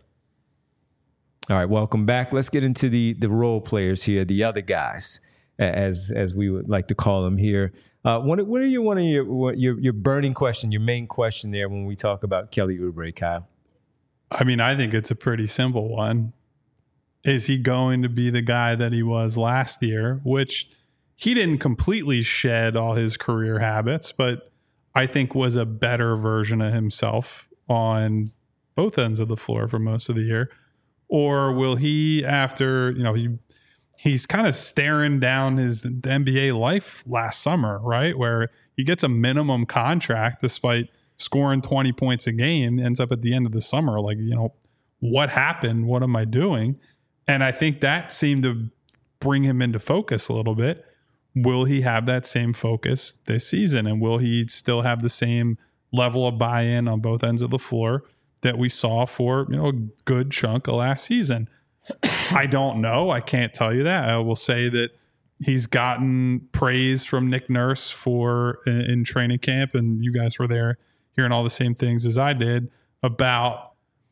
All right, welcome back. Let's get into the the role players here, the other guys, as as we would like to call them here. Uh, what, what are your one of your, what, your your burning question, your main question there when we talk about Kelly Oubre, Kyle? I mean, I think it's a pretty simple one. Is he going to be the guy that he was last year, which he didn't completely shed all his career habits, but I think was a better version of himself on both ends of the floor for most of the year? Or will he, after, you know, he he's kind of staring down his N B A life last summer, right? Where he gets a minimum contract despite scoring twenty points a game, ends up at the end of the summer like, you know, what happened? What am I doing? And I think that seemed to bring him into focus a little bit. Will he have that same focus this season? And will he still have the same level of buy-in on both ends of the floor that we saw for, you know, a good chunk of last season? I don't know. I can't tell you that. I will say that he's gotten praise from Nick Nurse for in, in training camp, and you guys were there hearing all the same things as I did about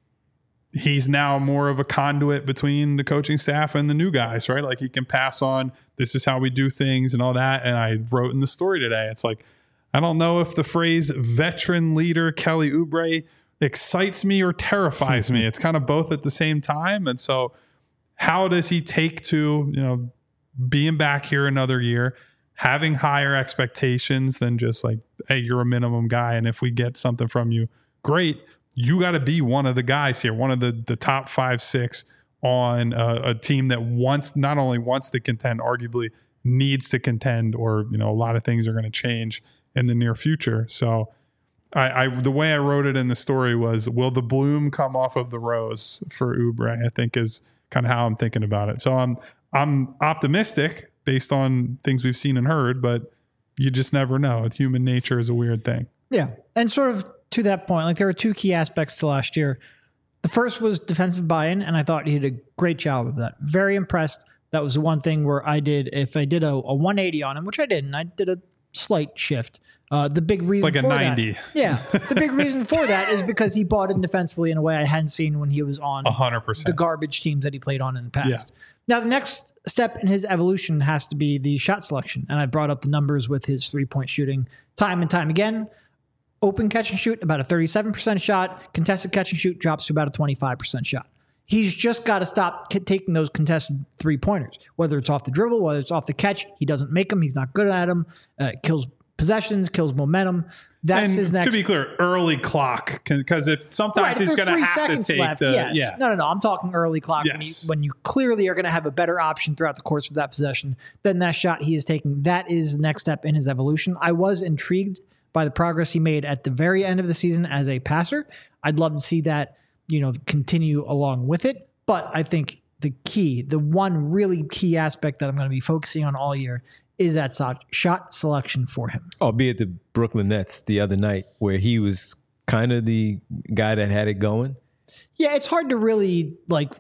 he's now more of a conduit between the coaching staff and the new guys, right? Like he can pass on, this is how we do things and all that. And I wrote in the story today, it's like, I don't know if the phrase veteran leader Kelly Oubre excites me or terrifies me. It's kind of both at the same time. And so how does he take to, you know, being back here another year, having higher expectations than just like, hey, you're a minimum guy, and if we get something from you, great. You got to be one of the guys here, one of the, the top five, six on a, a team that wants, not only wants to contend, arguably needs to contend, or, you know, a lot of things are going to change in the near future. So I, I, the way I wrote it in the story was, will the bloom come off of the rose for Oubre? I think is kind of how I'm thinking about it. So I'm, I'm optimistic based on things we've seen and heard, but you just never know. Human nature is a weird thing. Yeah. And sort of to that point, like there were two key aspects to last year. The first was defensive buy-in, and I thought he did a great job of that. Very impressed. That was the one thing where I did, if I did a, a one eighty on him, which I didn't, I did a slight shift. Uh, the big reason like a for ninety. That, yeah. The big reason for that is because he bought in defensively in a way I hadn't seen when he was on one hundred percent the garbage teams that he played on in the past. Yeah. Now, the next step in his evolution has to be the shot selection. And I brought up the numbers with his three-point shooting time and time again. Open catch and shoot, about a thirty-seven percent shot. Contested catch and shoot drops to about a twenty-five percent shot. He's just got to stop k- taking those contested three-pointers. Whether it's off the dribble, whether it's off the catch, he doesn't make them. He's not good at them. Uh, kills possessions, kills momentum. That's and his next. To be clear, early clock, because if sometimes right, if he's going to have to take left, the yes. yeah. No, no, no. I'm talking early clock Yes. when, you, when you clearly are going to have a better option throughout the course of that possession than that shot he is taking. That is the next step in his evolution. I was intrigued by the progress he made at the very end of the season as a passer. I'd love to see that, you know, continue along with it. But I think the key, the one really key aspect that I'm going to be focusing on all year is that shot selection for him. Albeit the Brooklyn Nets the other night, where he was kind of the guy that had it going. Yeah, it's hard to really like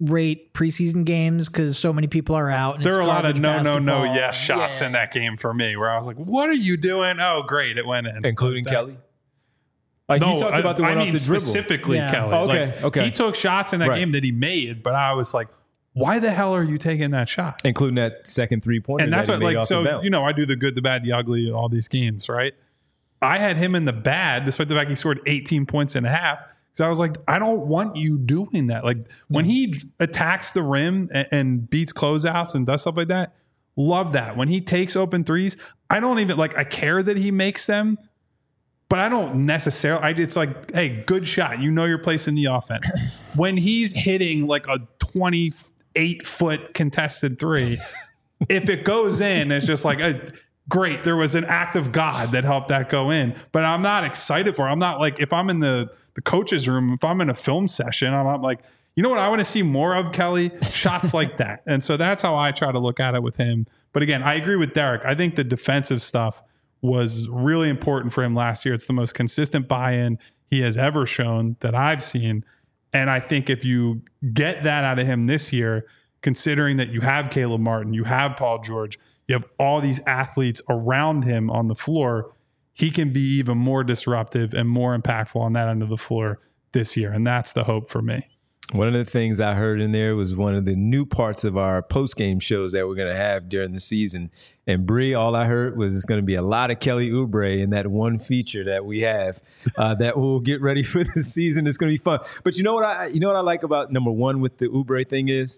rate preseason games because so many people are out. And there it's are a lot of garbage no, no, no, basketball. yes shots Yeah. in that game for me, where I was like, "What are you doing?" Oh, great, it went in, including Like that. Kelly. Like No, you talked I, about the I one mean off the dribble. specifically Yeah. Kelly. Oh, okay, Like, okay. He took shots in that Right. game that he made, but I was like, "Why the hell are you taking that shot?" including that second three pointer. And that's that what, he made like, off the so bounce. you know, I do the good, the bad, the ugly, all these games, right? I had him in the bad, despite the fact he scored eighteen points and a half. Because I was like, I don't want you doing that. Like when he attacks the rim and, and beats closeouts and does stuff like that, love that. When he takes open threes, I don't even like. I care that he makes them, but I don't necessarily. I it's like, hey, good shot. You know your place in the offense. When he's hitting like a twenty-eight foot contested three, if it goes in, it's just like a. Great. There was an act of God that helped that go in, but I'm not excited for it. I'm not like, if I'm in the, the coach's room, if I'm in a film session, I'm not like, you know what I want to see more of, Kelly? Shots like that. And so that's how I try to look at it with him. But again, I agree with Derek. I think the defensive stuff was really important for him last year. It's the most consistent buy-in he has ever shown that I've seen. And I think if you get that out of him this year, considering that you have Caleb Martin, you have Paul George, you have all these athletes around him on the floor, he can be even more disruptive and more impactful on that end of the floor this year. And that's the hope for me. One of the things I heard in there was one of the new parts of our post-game shows that we're going to have during the season. And Bree, all I heard was it's going to be a lot of Kelly Oubre in that one feature that we have uh, that we'll get ready for the season. It's going to be fun. But you know what I, you know what I like about number one with the Oubre thing is,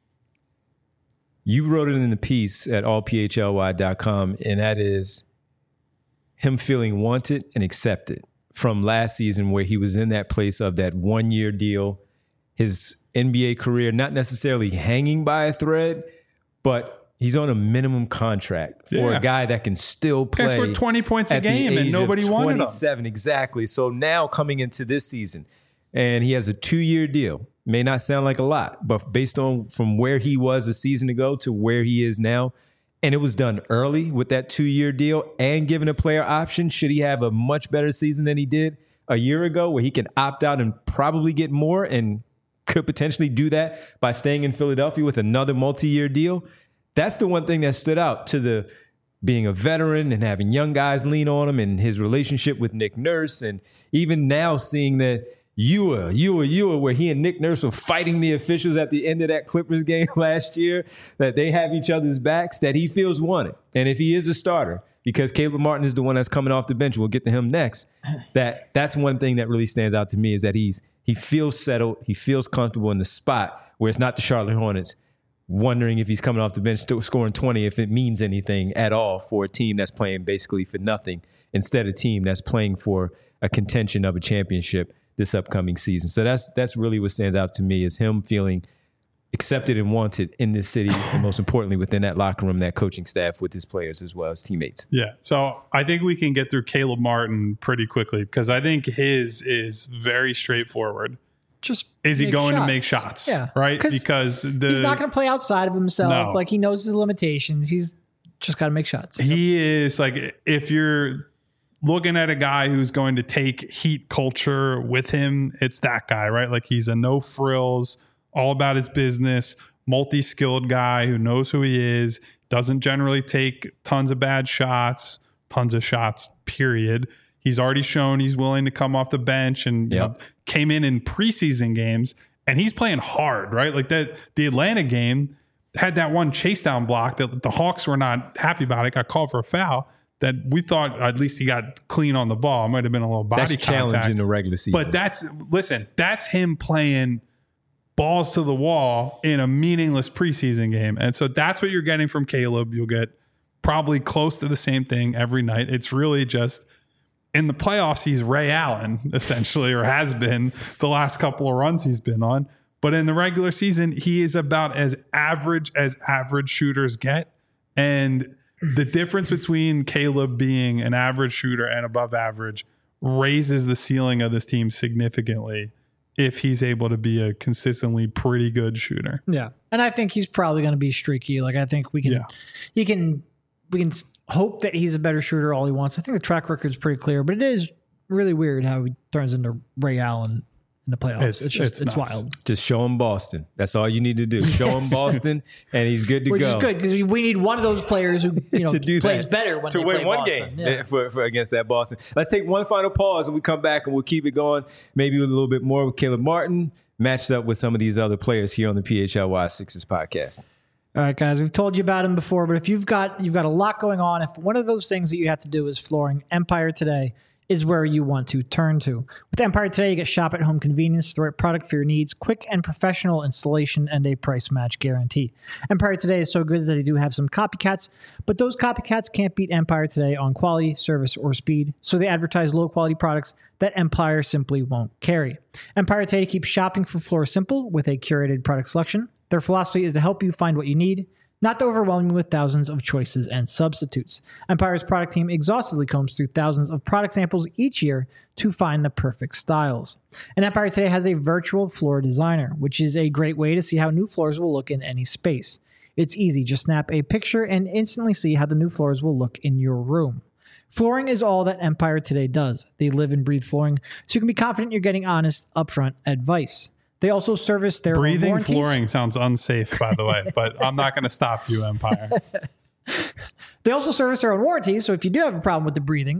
you wrote it in the piece at all p h l y dot com, and that is him feeling wanted and accepted from last season where he was in that place of that one-year deal, his N B A career not necessarily hanging by a thread, but he's on a minimum contract for Yeah. a guy that can still play. Guy scored twenty points a at the game and age nobody of wanted him. twenty-seven, exactly. So now coming into this season, and he has a two-year deal. May not sound like a lot, but based on from where he was a season ago to where he is now, and it was done early with that two-year deal and given a player option, should he have a much better season than he did a year ago where he can opt out and probably get more and could potentially do that by staying in Philadelphia with another multi-year deal? That's the one thing that stood out to the being a veteran and having young guys lean on him and his relationship with Nick Nurse. And even now seeing that Ewa, Ewa, Ewa, where he and Nick Nurse were fighting the officials at the end of that Clippers game last year, that they have each other's backs, that he feels wanted. And if he is a starter, because Caleb Martin is the one that's coming off the bench, we'll get to him next, that that's one thing that really stands out to me is that he's he feels settled, he feels comfortable in the spot where it's not the Charlotte Hornets wondering if he's coming off the bench still scoring twenty, if it means anything at all for a team that's playing basically for nothing instead of a team that's playing for a contention of a championship this upcoming season. So that's that's really what stands out to me is him feeling accepted and wanted in this city, and most importantly within that locker room, that coaching staff with his players as well as teammates. Yeah. So I think we can get through Caleb Martin pretty quickly because I think his is very straightforward. Just Is he make going shots. to make shots? Yeah. Right? Because the, he's not going to play outside of himself. No. Like he knows his limitations. He's just got to make shots. he is like, if you're looking at a guy who's going to take Heat culture with him, it's that guy, right? Like he's a no frills, all about his business, multi-skilled guy who knows who he is, doesn't generally take tons of bad shots, tons of shots, period. He's already shown he's willing to come off the bench and you Yep. know, came in in preseason games and he's playing hard, right? Like that, the Atlanta game had that one chase down block that the Hawks were not happy about. It got called for a foul that we thought at least he got clean on the ball. It might have been a little body That's a challenge contact. in the regular season. But that's, listen, that's him playing balls to the wall in a meaningless preseason game. And so that's what you're getting from Caleb. You'll get probably close to the same thing every night. It's really just in the playoffs, he's Ray Allen, essentially, or has been the last couple of runs he's been on. But in the regular season, he is about as average as average shooters get. And the difference between Caleb being an average shooter and above average raises the ceiling of this team significantly if he's able to be a consistently pretty good shooter. Yeah. And I think he's probably going to be streaky. Like I think we can, Yeah. he can, we can hope that he's a better shooter all he wants. I think the track record is pretty clear, but it is really weird how he turns into Ray Allen in the playoffs. It's- It's, just it's it's, nuts. wild. Just show him Boston. That's all you need to do. Show him Boston, and he's good to Which go. is good because we need one of those players who you know to do plays that. better when to they win play one Boston. game Yeah. for, for against that Boston. Let's take one final pause and we come back and we'll keep it going. Maybe with a little bit more with Caleb Martin matched up with some of these other players here on the P H L Y Sixers podcast. All right, guys, we've told you about him before, but if you've got you've got a lot going on, if one of those things that you have to do is flooring, Empire Today is where you want to turn to. With Empire Today, you get shop at home convenience, the right product for your needs, quick and professional installation, and a price match guarantee. Empire Today is so good that they do have some copycats, but those copycats can't beat Empire Today on quality, service, or speed, so they advertise low-quality products that Empire simply won't carry. Empire Today keeps shopping for floor simple with a curated product selection. Their philosophy is to help you find what you need, not to overwhelm you with thousands of choices and substitutes. Empire's product team exhaustively combs through thousands of product samples each year to find the perfect styles. And Empire Today has a virtual floor designer, which is a great way to see how new floors will look in any space. It's easy. Just snap a picture and instantly see how the new floors will look in your room. Flooring is all that Empire Today does. They live and breathe flooring, so you can be confident you're getting honest, upfront advice. They also service their own Breathing warranties. flooring sounds unsafe, by the way, but I'm not going to stop you, Empire. They also service their own warranties, so if you do have a problem with the breathing,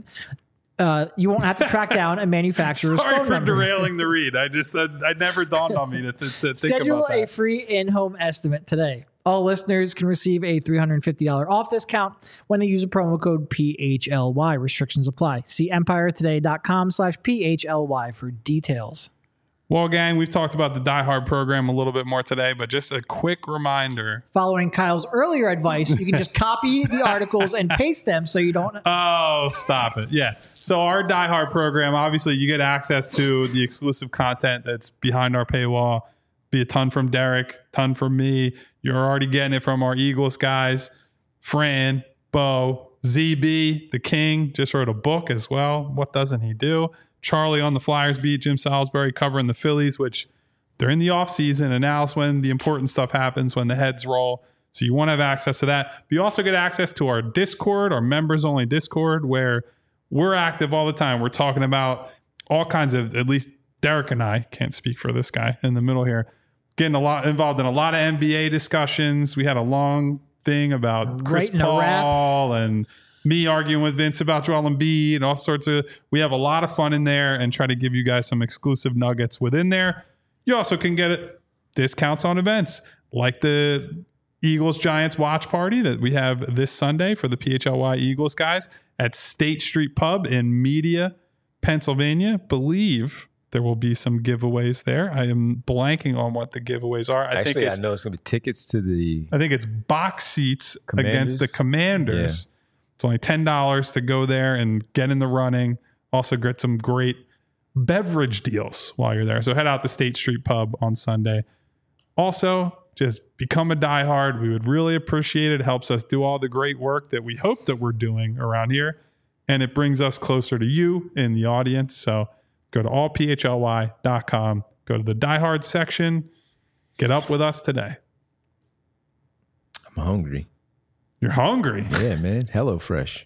uh, you won't have to track down a manufacturer's Sorry phone for number. derailing the read. I just, I, I never dawned on me to, to, to think Schedule about a that. free in-home estimate today. All listeners can receive a three hundred fifty dollars off discount when they use a promo code P H L Y. Restrictions apply. See empiretoday.com slash PHLY for details. Well, gang, we've talked about the Die Hard program a little bit more today, but just a quick reminder. Following Kyle's earlier advice, you can just copy the articles and paste them so you don't... Oh, stop it. Yeah. So our Die Hard program, obviously you get access to the exclusive content that's behind our paywall. Be a ton from Derek, ton from me. You're already getting it from our Eagles guys. Fran, Bo, Z B, the King, just wrote a book as well. What doesn't he do? Charlie on the Flyers beat, Jim Salisbury covering the Phillies, which they're in the offseason, and now's when the important stuff happens, when the heads roll. So you want to have access to that. But you also get access to our Discord, our members-only Discord, where we're active all the time. We're talking about all kinds of, at least Derek and I, can't speak for this guy in the middle here, getting a lot involved in a lot of N B A discussions. We had a long thing about Chris Writing a rap. Paul and me arguing with Vince about Joel Embiid and all sorts of, we have a lot of fun in there and try to give you guys some exclusive nuggets within there. You also can get discounts on events like the Eagles Giants watch party that we have this Sunday for the P H L Y Eagles guys at State Street Pub in Media, Pennsylvania. Believe there will be some giveaways there. I am blanking on what the giveaways are. I Actually, think it's I know it's going to be tickets to the... I think it's box seats Commanders? against the Commanders. It's only ten dollars to go there and get in the running. Also get some great beverage deals while you're there. So head out to State Street Pub on Sunday. Also, just become a diehard. We would really appreciate it. It helps us do all the great work that we hope that we're doing around here. And it brings us closer to you in the audience. So go to all P H L Y dot com. Go to the diehard section. Get up with us today. I'm hungry. You're hungry. Yeah, man. HelloFresh.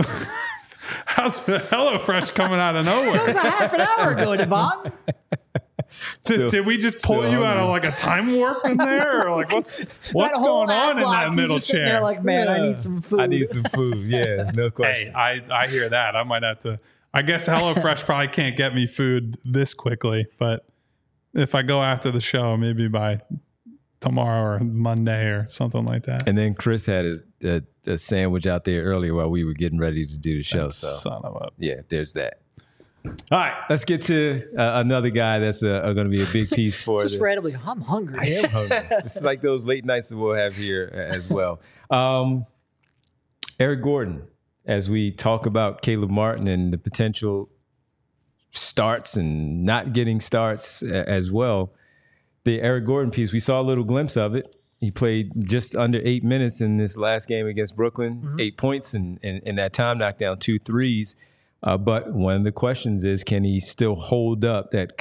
How's HelloFresh coming out of That was nowhere? a half an hour ago, Devon. Did, Still- did we just pull still you out of hungry. like a time warp in there? Or like what's what's That whole going on in ad block, that he's middle just sitting chair? There like, man, I Yeah. need some food. I need some food. Yeah, no Hey, question. I, I hear that. I might have to. I guess HelloFresh probably can't get me food this quickly, but if I go after the show, maybe by tomorrow or Monday or something like that. And then Chris had a, a, a sandwich out there earlier while we were getting ready to do the show. So Son of a. yeah, there's that. All right, let's get to uh, another guy that's uh, going to be a big piece for Just this. randomly, I'm hungry. I am hungry. It's like those late nights that we'll have here as well. Um, Eric Gordon, as we talk about Caleb Martin and the potential starts and not getting starts a- as well. The Eric Gordon piece, we saw a little glimpse of it. He played just under eight minutes in this last game against Brooklyn, mm-hmm. eight points, and in that time knocked down two threes. Uh, but one of the questions is, can he still hold up that Kyle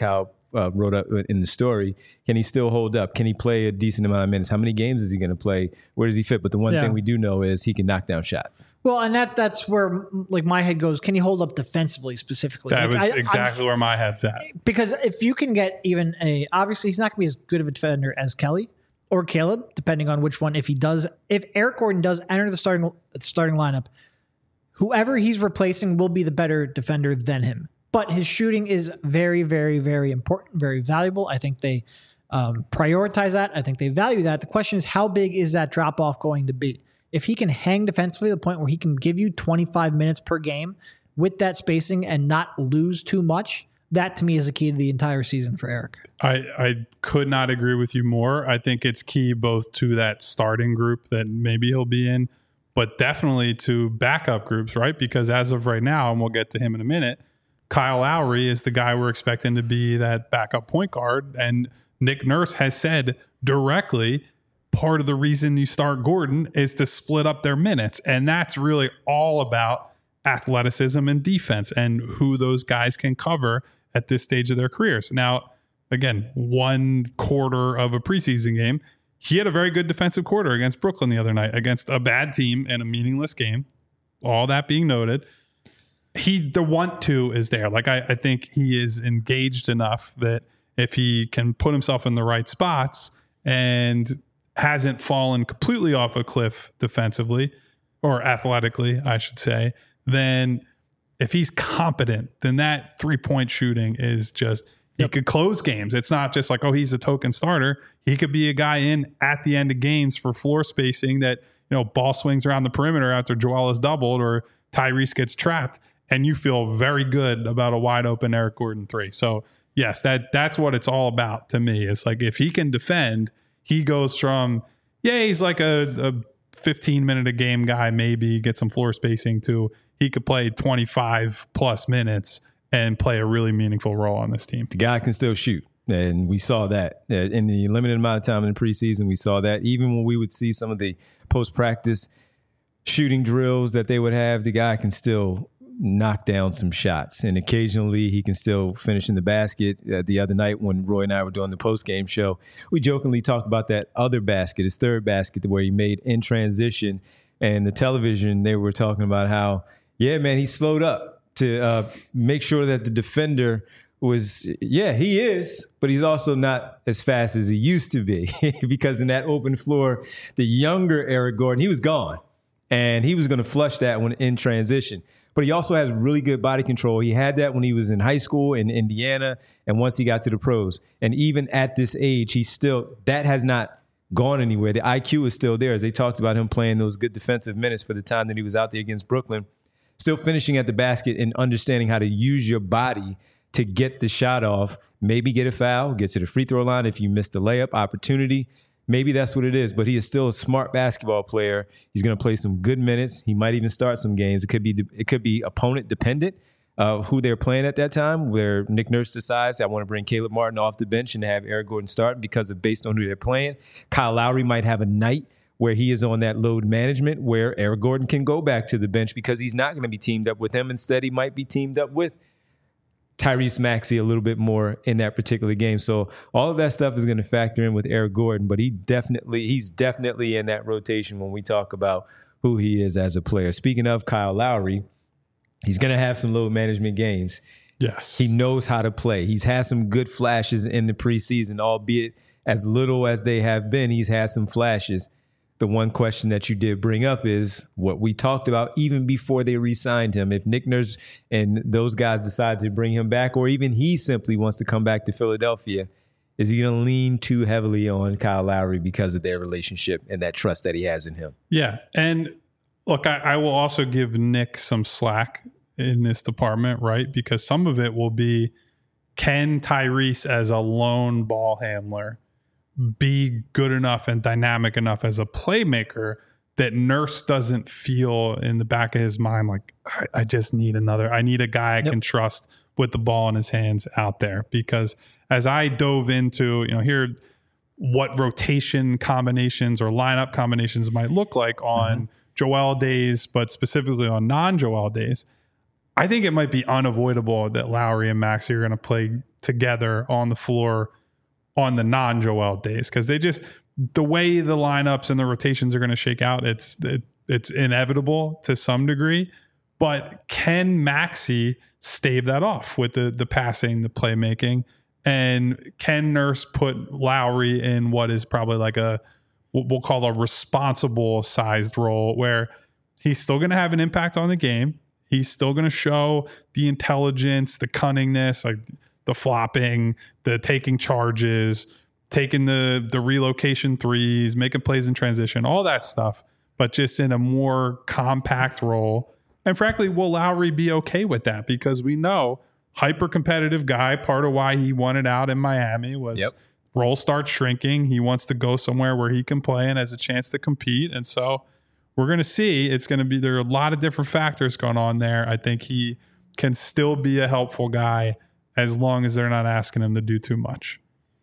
uh, wrote up in the story. Can he still hold up? Can he play a decent amount of minutes? How many games is he going to play? Where does he fit? But the one Yeah. thing we do know is he can knock down shots. Well, and that that's where like my head goes. Can he hold up defensively specifically? That Like, was I- exactly I'm- where my head's at. because if you can get even a obviously he's not going to be as good of a defender as Kelly or Caleb, depending on which one. If he does, if Eric Gordon does enter the starting starting lineup, whoever he's replacing will be the better defender than him. But his shooting is very, very, very important, very valuable. I think they um, prioritize that. I think they value that. The question is, how big is that drop off going to be? If he can hang defensively to the point where he can give you twenty-five minutes per game with that spacing and not lose too much, that to me is the key to the entire season for Eric. I, I could not agree with you more. I think it's key both to that starting group that maybe he'll be in, but definitely to backup groups, right? Because as of right now, and we'll get to him in a minute, Kyle Lowry is the guy we're expecting to be that backup point guard. And Nick Nurse has said directly, part of the reason you start Gordon is to split up their minutes. And that's really all about athleticism and defense and who those guys can cover at this stage of their careers. Now, again, one quarter of a preseason game, he had a very good defensive quarter against Brooklyn the other night, against a bad team in a meaningless game. All that being noted, he the want to is there. Like I, I think he is engaged enough that if he can put himself in the right spots and hasn't fallen completely off a cliff defensively or athletically, I should say, then if he's competent, then that three-point shooting is just, he yep. could close games. It's not just like, oh, he's a token starter. He could be a guy in at the end of games for floor spacing that, you know, ball swings around the perimeter after Joel is doubled or Tyrese gets trapped, and you feel very good about a wide open Eric Gordon three. So yes, that that's what it's all about to me. It's like if he can defend, he goes from, yeah, he's like a, a fifteen minute a game guy, maybe get some floor spacing, to he could play twenty-five plus minutes and play a really meaningful role on this team. The guy can still shoot. And we saw that in the limited amount of time in the preseason. We saw that even when we would see some of the post-practice shooting drills that they would have, the guy can still knock down some shots. And occasionally he can still finish in the basket. Uh, the other night when Roy and I were doing the post-game show, we jokingly talked about that other basket, his third basket, where he made in transition. And the television, they were talking about how, yeah, man, he slowed up to uh, make sure that the defender was, yeah, he is, but he's also not as fast as he used to be because in that open floor, the younger Eric Gordon, he was gone and he was going to flush that one in transition. But he also has really good body control. He had that when he was in high school in Indiana and once he got to the pros. And even at this age, he's still, that has not gone anywhere. The I Q is still there. As they talked about him playing those good defensive minutes for the time that he was out there against Brooklyn, still finishing at the basket and understanding how to use your body to get the shot off, maybe get a foul, get to the free throw line if you missed the layup opportunity. Maybe that's what it is, but he is still a smart basketball player. He's going to play some good minutes. He might even start some games. It could be it could be opponent dependent of who they're playing at that time, where Nick Nurse decides, I want to bring Caleb Martin off the bench and have Eric Gordon start because of based on who they're playing. Kyle Lowry might have a night where he is on that load management where Eric Gordon can go back to the bench because he's not going to be teamed up with him. Instead, he might be teamed up with Tyrese Maxey a little bit more in that particular game. So all of that stuff is going to factor in with Eric Gordon, but he definitely, he's definitely in that rotation when we talk about who he is as a player. Speaking of Kyle Lowry, he's going to have some load management games. Yes. He knows how to play. He's had some good flashes in the preseason, albeit as little as they have been, he's had some flashes. The one question that you did bring up is what we talked about even before they re-signed him. If Nick Nurse and those guys decide to bring him back, or even he simply wants to come back to Philadelphia, is he going to lean too heavily on Kyle Lowry because of their relationship and that trust that he has in him? Yeah. And look, I, I will also give Nick some slack in this department, right? Because some of it will be, can Tyrese as a lone ball handler be good enough and dynamic enough as a playmaker that Nurse doesn't feel in the back of his mind like, I, I just need another, I need a guy I yep. can trust with the ball in his hands out there. Because as I dove into, you know, here, what rotation combinations or lineup combinations might look like on mm-hmm. Joel days, but specifically on non-Joel days, I think it might be unavoidable that Lowry and Maxey are going to play together on the floor on the non-Joel days, because they just, the way the lineups and the rotations are going to shake out, it's it, it's inevitable to some degree. But can Maxey stave that off with the the passing, the playmaking? And can Nurse put Lowry in what is probably like a, what we'll call a responsible sized role, where he's still going to have an impact on the game. He's still going to show the intelligence, the cunningness, like the flopping, the taking charges, taking the the relocation threes, making plays in transition, all that stuff, but just in a more compact role. And frankly, will Lowry be okay with that? Because we know hyper competitive guy, part of why he wanted out in Miami was yep. role starts shrinking. He wants to go somewhere where he can play and has a chance to compete. And so we're going to see. It's going to be, there are a lot of different factors going on there. I think he can still be a helpful guy as long as they're not asking him to do too much.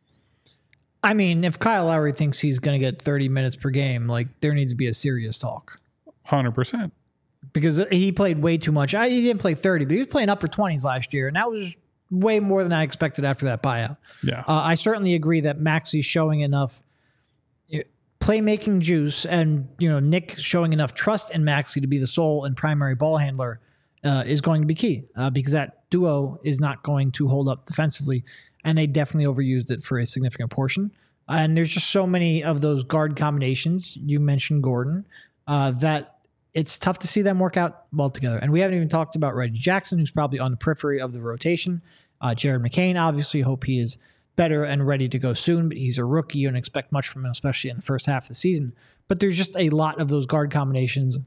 I mean, if Kyle Lowry thinks he's going to get thirty minutes per game, like there needs to be a serious talk. one hundred percent. Because he played way too much. I, he didn't play thirty, but he was playing upper twenties last year, and that was way more than I expected after that buyout. Yeah, uh, I certainly agree that Maxey's showing enough playmaking juice, and you know Nick showing enough trust in Maxey to be the sole and primary ball handler uh, is going to be key, uh, because that duo is not going to hold up defensively, and they definitely overused it for a significant portion. And there's just so many of those guard combinations. You mentioned Gordon, uh, that it's tough to see them work out well together. And we haven't even talked about Reggie Jackson, who's probably on the periphery of the rotation. Uh, Jared McCain, obviously, hope he is better and ready to go soon, but he's a rookie. You don't expect much from him, especially in the first half of the season. But there's just a lot of those guard combinations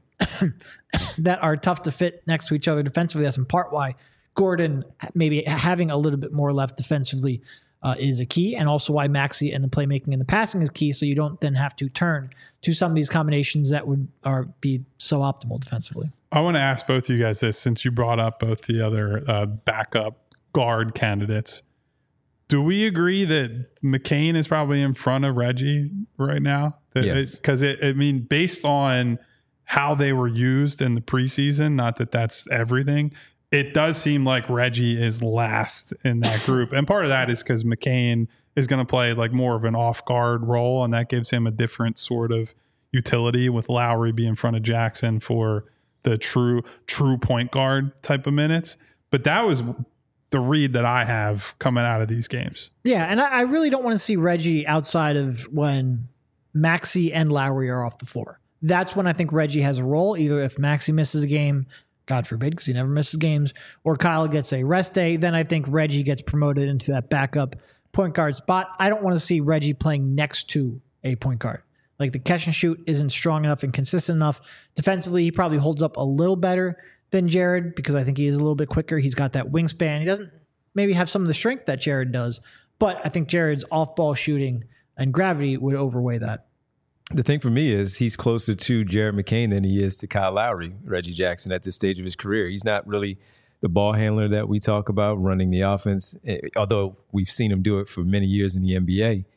that are tough to fit next to each other defensively. That's in part why Gordon maybe having a little bit more left defensively uh, is a key, and also why Maxey and the playmaking and the passing is key, so you don't then have to turn to some of these combinations that would are be so optimal defensively. I want to ask both of you guys this, since you brought up both the other uh, backup guard candidates. Do we agree that McCain is probably in front of Reggie right now? That yes. Because, it, it, I mean, based on how they were used in the preseason, not that that's everything, it does seem like Reggie is last in that group. And part of that is because McCain is going to play like more of an off-guard role, and that gives him a different sort of utility, with Lowry being in front of Jackson for the true, true point guard type of minutes. But that was the read that I have coming out of these games. Yeah, and I, I really don't want to see Reggie outside of when Maxey and Lowry are off the floor. That's when I think Reggie has a role, either if Maxey misses a game, God forbid, because he never misses games, or Kyle gets a rest day, then I think Reggie gets promoted into that backup point guard spot. I don't want to see Reggie playing next to a point guard. Like the catch and shoot isn't strong enough and consistent enough. Defensively, he probably holds up a little better than Jared, because I think he is a little bit quicker. He's got that wingspan. He doesn't maybe have some of the strength that Jared does, but I think Jared's off-ball shooting and gravity would overweigh that. The thing for me is he's closer to Jared McCain than he is to Kyle Lowry, Reggie Jackson, at this stage of his career. He's not really the ball handler that we talk about running the offense, although we've seen him do it for many years in the N B A.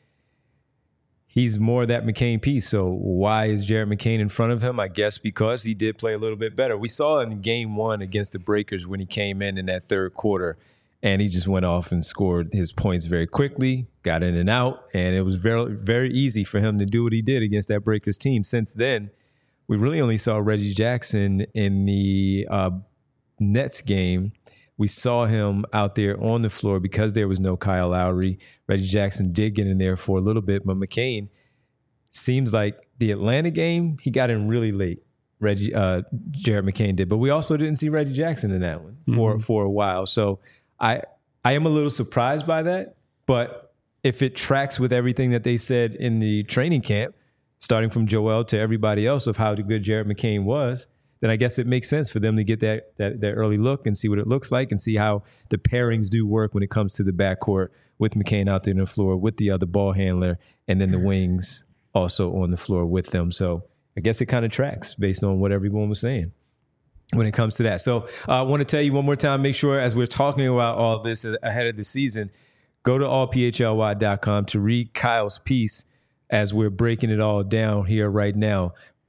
He's more that McCain piece. So why is Jared McCain in front of him? I guess because he did play a little bit better. We saw in game one against the Breakers when he came in in that third quarter, and he just went off and scored his points very quickly, got in and out, and it was very, very easy for him to do what he did against that Breakers team. Since then, we really only saw Reggie Jackson in the uh, Nets game. We saw him out there on the floor because there was no Kyle Lowry. Reggie Jackson did get in there for a little bit, but McCain seems like the Atlanta game, he got in really late. Reggie, uh, Jared McCain did, but we also didn't see Reggie Jackson in that one mm-hmm. for for a while. So I I am a little surprised by that, but if it tracks with everything that they said in the training camp, starting from Joel to everybody else of how good Jared McCain was, then I guess it makes sense for them to get that, that that early look and see what it looks like and see how the pairings do work when it comes to the backcourt with McCain out there on the floor with the other ball handler, and then the wings also on the floor with them. So I guess it kind of tracks based on what everyone was saying when it comes to that. So uh, I want to tell you one more time, make sure as we're talking about all this ahead of the season, go to all p h l y dot com to read Kyle's piece as we're breaking it all down here right now.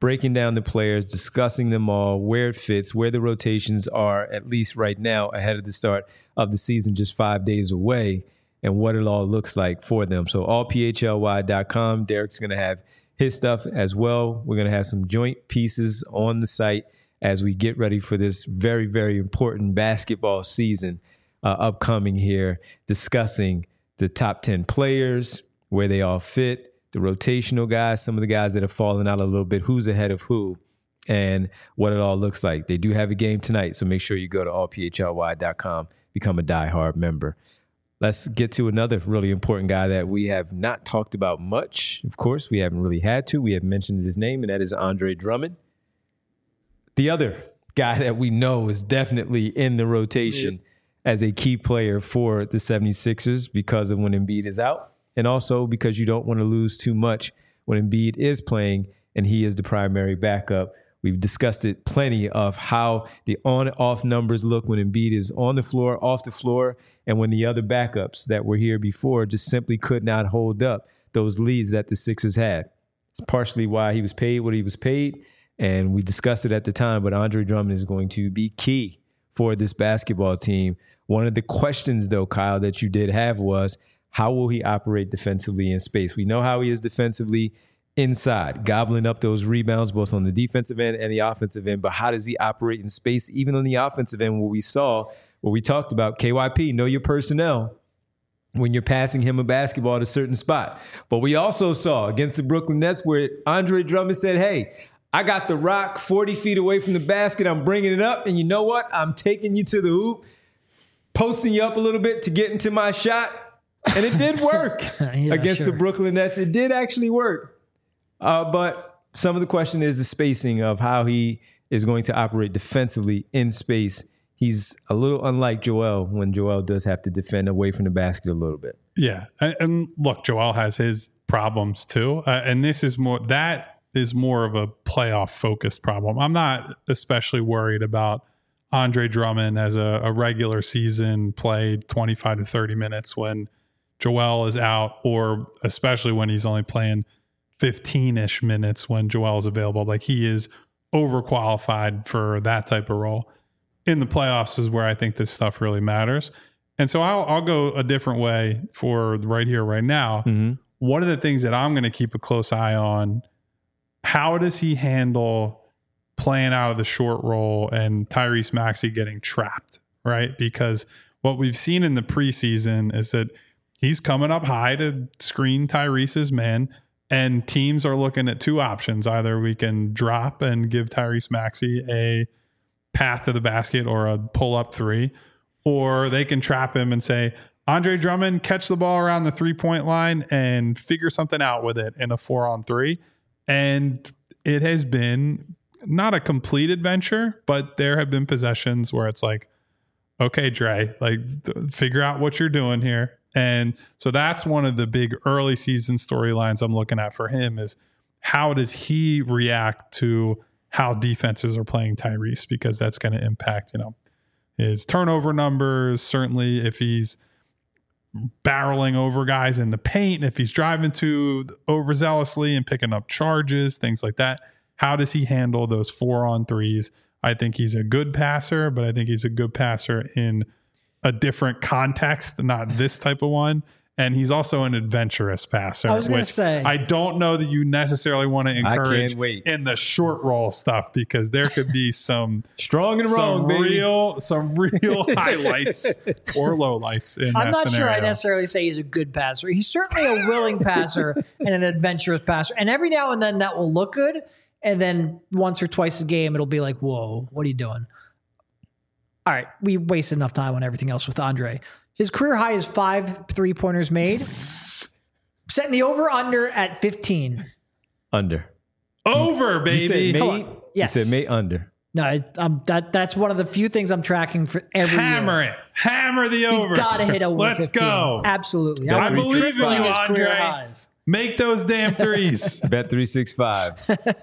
breaking down the players, discussing them all, where it fits, where the rotations are, at least right now, ahead of the start of the season, just five days away, and what it all looks like for them. So all P H L Y dot com, Derek's going to have his stuff as well. We're going to have some joint pieces on the site as we get ready for this very, very important basketball season uh, upcoming here, discussing the top ten players, where they all fit, the rotational guys, some of the guys that have fallen out a little bit, who's ahead of who, and what it all looks like. They do have a game tonight, so make sure you go to all P H L Y dot com, become a diehard member. Let's get to another really important guy that we have not talked about much. Of course, we haven't really had to. We have mentioned his name, and that is Andre Drummond. The other guy that we know is definitely in the rotation yeah. as a key player for the seventy-sixers because of when Embiid is out. And also because you don't want to lose too much when Embiid is playing and he is the primary backup. We've discussed it plenty of how the on-off numbers look when Embiid is on the floor, off the floor, and when the other backups that were here before just simply could not hold up those leads that the Sixers had. It's partially why he was paid what he was paid, and we discussed it at the time, but Andre Drummond is going to be key for this basketball team. One of the questions, though, Kyle, that you did have was, how will he operate defensively in space? We know how he is defensively inside, gobbling up those rebounds, both on the defensive end and the offensive end. But how does he operate in space, even on the offensive end, where we saw, where we talked about K Y P, know your personnel when you're passing him a basketball at a certain spot. But we also saw against the Brooklyn Nets where Andre Drummond said, hey, I got the rock forty feet away from the basket. I'm bringing it up. And you know what? I'm taking you to the hoop, posting you up a little bit to get into my shot. And it did work yeah, against sure. the Brooklyn Nets. It did actually work. Uh, but some of the question is the spacing of how he is going to operate defensively in space. He's a little unlike Joel when Joel does have to defend away from the basket a little bit. Yeah. And, and look, Joel has his problems too. Uh, and this is more, that is more of a playoff focused problem. I'm not especially worried about Andre Drummond as a, a regular season played twenty-five to thirty minutes when Joel is out, or especially when he's only playing fifteen-ish minutes when Joel is available. Like, he is overqualified for that type of role. In the playoffs is where I think this stuff really matters. And so I'll, I'll go a different way for right here, right now. Mm-hmm. One of the things that I'm going to keep a close eye on, how does he handle playing out of the short roll and Tyrese Maxey getting trapped, right? Because what we've seen in the preseason is that he's coming up high to screen Tyrese's man, and teams are looking at two options. Either we can drop and give Tyrese Maxey a path to the basket or a pull-up three, or they can trap him and say, Andre Drummond, catch the ball around the three-point line and figure something out with it in a four-on-three. And it has been not a complete adventure, but there have been possessions where it's like, okay, Dre, like, figure out what you're doing here. And so that's one of the big early season storylines I'm looking at for him is how does he react to how defenses are playing Tyrese, because that's going to impact, you know, his turnover numbers. Certainly if he's barreling over guys in the paint, if he's driving too overzealously and picking up charges, things like that. How does he handle those four on threes? I think he's a good passer, but I think he's a good passer in a different context, not this type of one. And he's also an adventurous passer, I was gonna which say, I don't know that you necessarily want to encourage I can't wait. in the short roll stuff, because there could be some strong and wrong, some baby. real, some real highlights or lowlights in I'm that not scenario. sure I necessarily say he's a good passer. He's certainly a willing passer and an adventurous passer. And every now and then that will look good. And then once or twice a game, it'll be like, whoa, what are you doing? All right, we wasted enough time on everything else with Andre. His career high is five three-pointers made. Setting the over-under at fifteen. Under. Over, baby. You said made? Yes. You said made under. No, I, um, that that's one of the few things I'm tracking for every Hammer year. it. Hammer the over. He's got to hit over Let's fifteen. go. Absolutely. I would be believe in tripling you, his career Andre. highs. Make those damn threes. Bet three six five.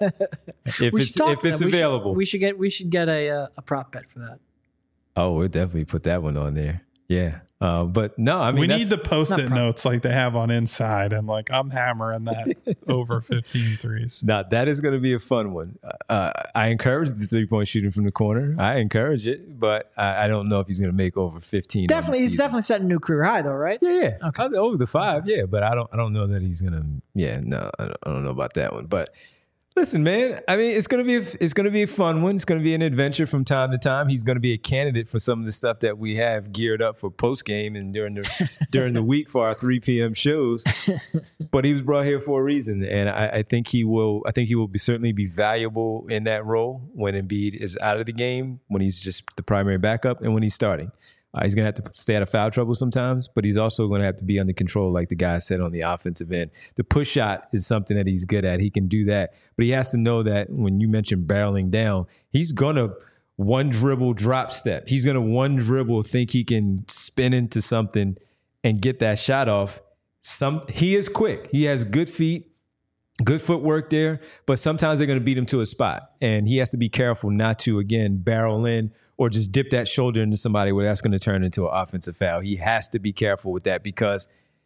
If We it's should talk if to it's them. We should- available. we should get we should get a uh, a prop bet for that. Oh, we'll definitely put that one on there. Yeah. Uh, but no, I mean, we that's, need the post-it notes like they have on Inside, and like I'm hammering that over fifteen threes. Now, that is going to be a fun one. Uh, I encourage the three-point shooting from the corner. I encourage it, but I, I don't know if he's going to make over fifteen. Definitely, he's definitely setting a new career high, though, right? Yeah, yeah. Okay. Over the five, yeah. But I don't, I don't know that he's going to. Yeah, no, I don't, I don't know about that one. But listen, man. I mean, it's going to be, a, it's going to be a fun one. It's going to be an adventure from time to time. He's going to be a candidate for some of the stuff that we have geared up for post game and during the during the week for our three p.m. shows. But he was brought here for a reason, and I, I think he will. I think he will be certainly be valuable in that role when Embiid is out of the game, when he's just the primary backup, and when he's starting. Uh, he's going to have to stay out of foul trouble sometimes, but he's also going to have to be under control, like the guy said on the offensive end. The push shot is something that he's good at. He can do that, but he has to know that when you mention barreling down, he's going to one dribble drop step. He's going to one dribble think he can spin into something and get that shot off. Some he is quick. He has good feet, good footwork there, but sometimes they're going to beat him to a spot, and he has to be careful not to, again, barrel in or just dip that shoulder into somebody where that's going to turn into an offensive foul. He has to be careful with that because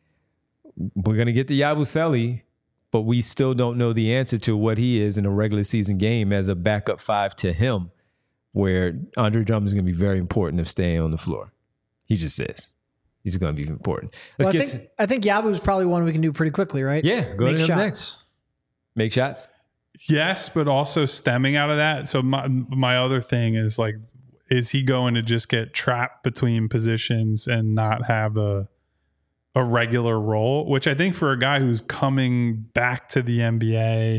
we're going to get to Yabusele, but we still don't know the answer to what he is in a regular season game as a backup five to him, where Andre Drummond is going to be very important of staying on the floor. He just is. He's going to be important. Let's well, I get think, to, I think Yabu is probably one we can do pretty quickly, right? Yeah, go Make to him shots. next. Make shots. Yes, but also stemming out of that. So my my other thing is like, is he going to just get trapped between positions and not have a a regular role? Which I think for a guy who's coming back to the N B A,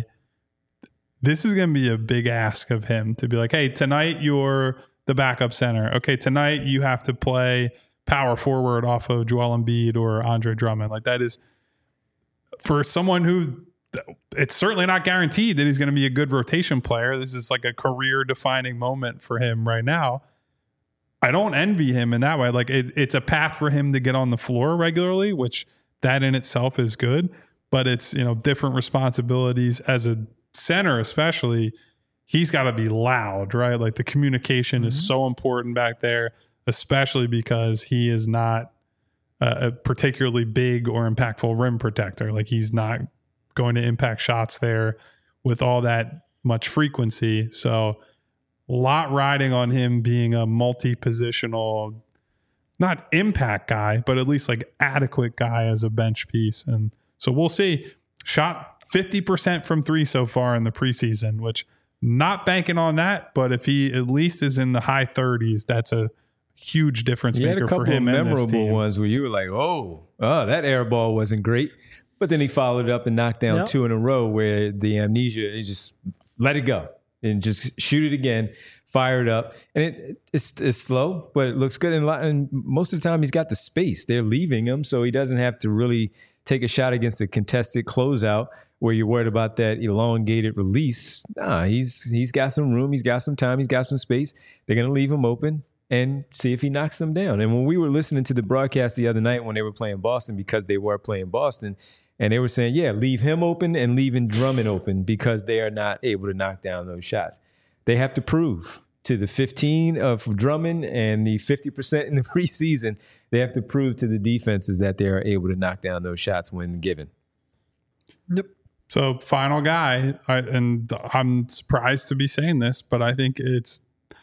this is going to be a big ask of him to be like, hey, tonight you're the backup center. Okay, tonight you have to play power forward off of Joel Embiid or Andre Drummond. Like that is for someone who it's certainly not guaranteed that he's going to be a good rotation player. This is like a career defining moment for him right now. I don't envy him in that way. Like it, it's a path for him to get on the floor regularly, which that in itself is good, but it's, you know, different responsibilities as a center, especially. He's got to be loud, right? Like the communication mm-hmm. is so important back there, especially because he is not a, a particularly big or impactful rim protector. Like he's not going to impact shots there with all that much frequency. So a lot riding on him being a multi-positional, not impact guy, but at least like adequate guy as a bench piece. And so we'll see. Shot fifty percent from three so far in the preseason, which not banking on that, but if he at least is in the high thirties, that's a huge difference you maker had a couple for him. Of memorable and this team. Ones where you were like, oh, oh, that air ball wasn't great. But then he followed up and knocked down yep. two in a row where the amnesia, he just let it go and just shoot it again, fire it up. And it, it's, it's slow, but it looks good. And, and most of the time he's got the space. They're leaving him, so he doesn't have to really take a shot against a contested closeout where you're worried about that elongated release. Nah, he's he's got some room. He's got some time. He's got some space. They're going to leave him open and see if he knocks them down. And when we were listening to the broadcast the other night when they were playing Boston, because they were playing Boston, and they were saying, yeah, leave him open and leaving Drummond open because they are not able to knock down those shots. They have to prove to the fifteen of Drummond and the fifty percent in the preseason, they have to prove to the defenses that they are able to knock down those shots when given. Yep. So final guy, I, and I'm surprised to be saying this, but I think it's,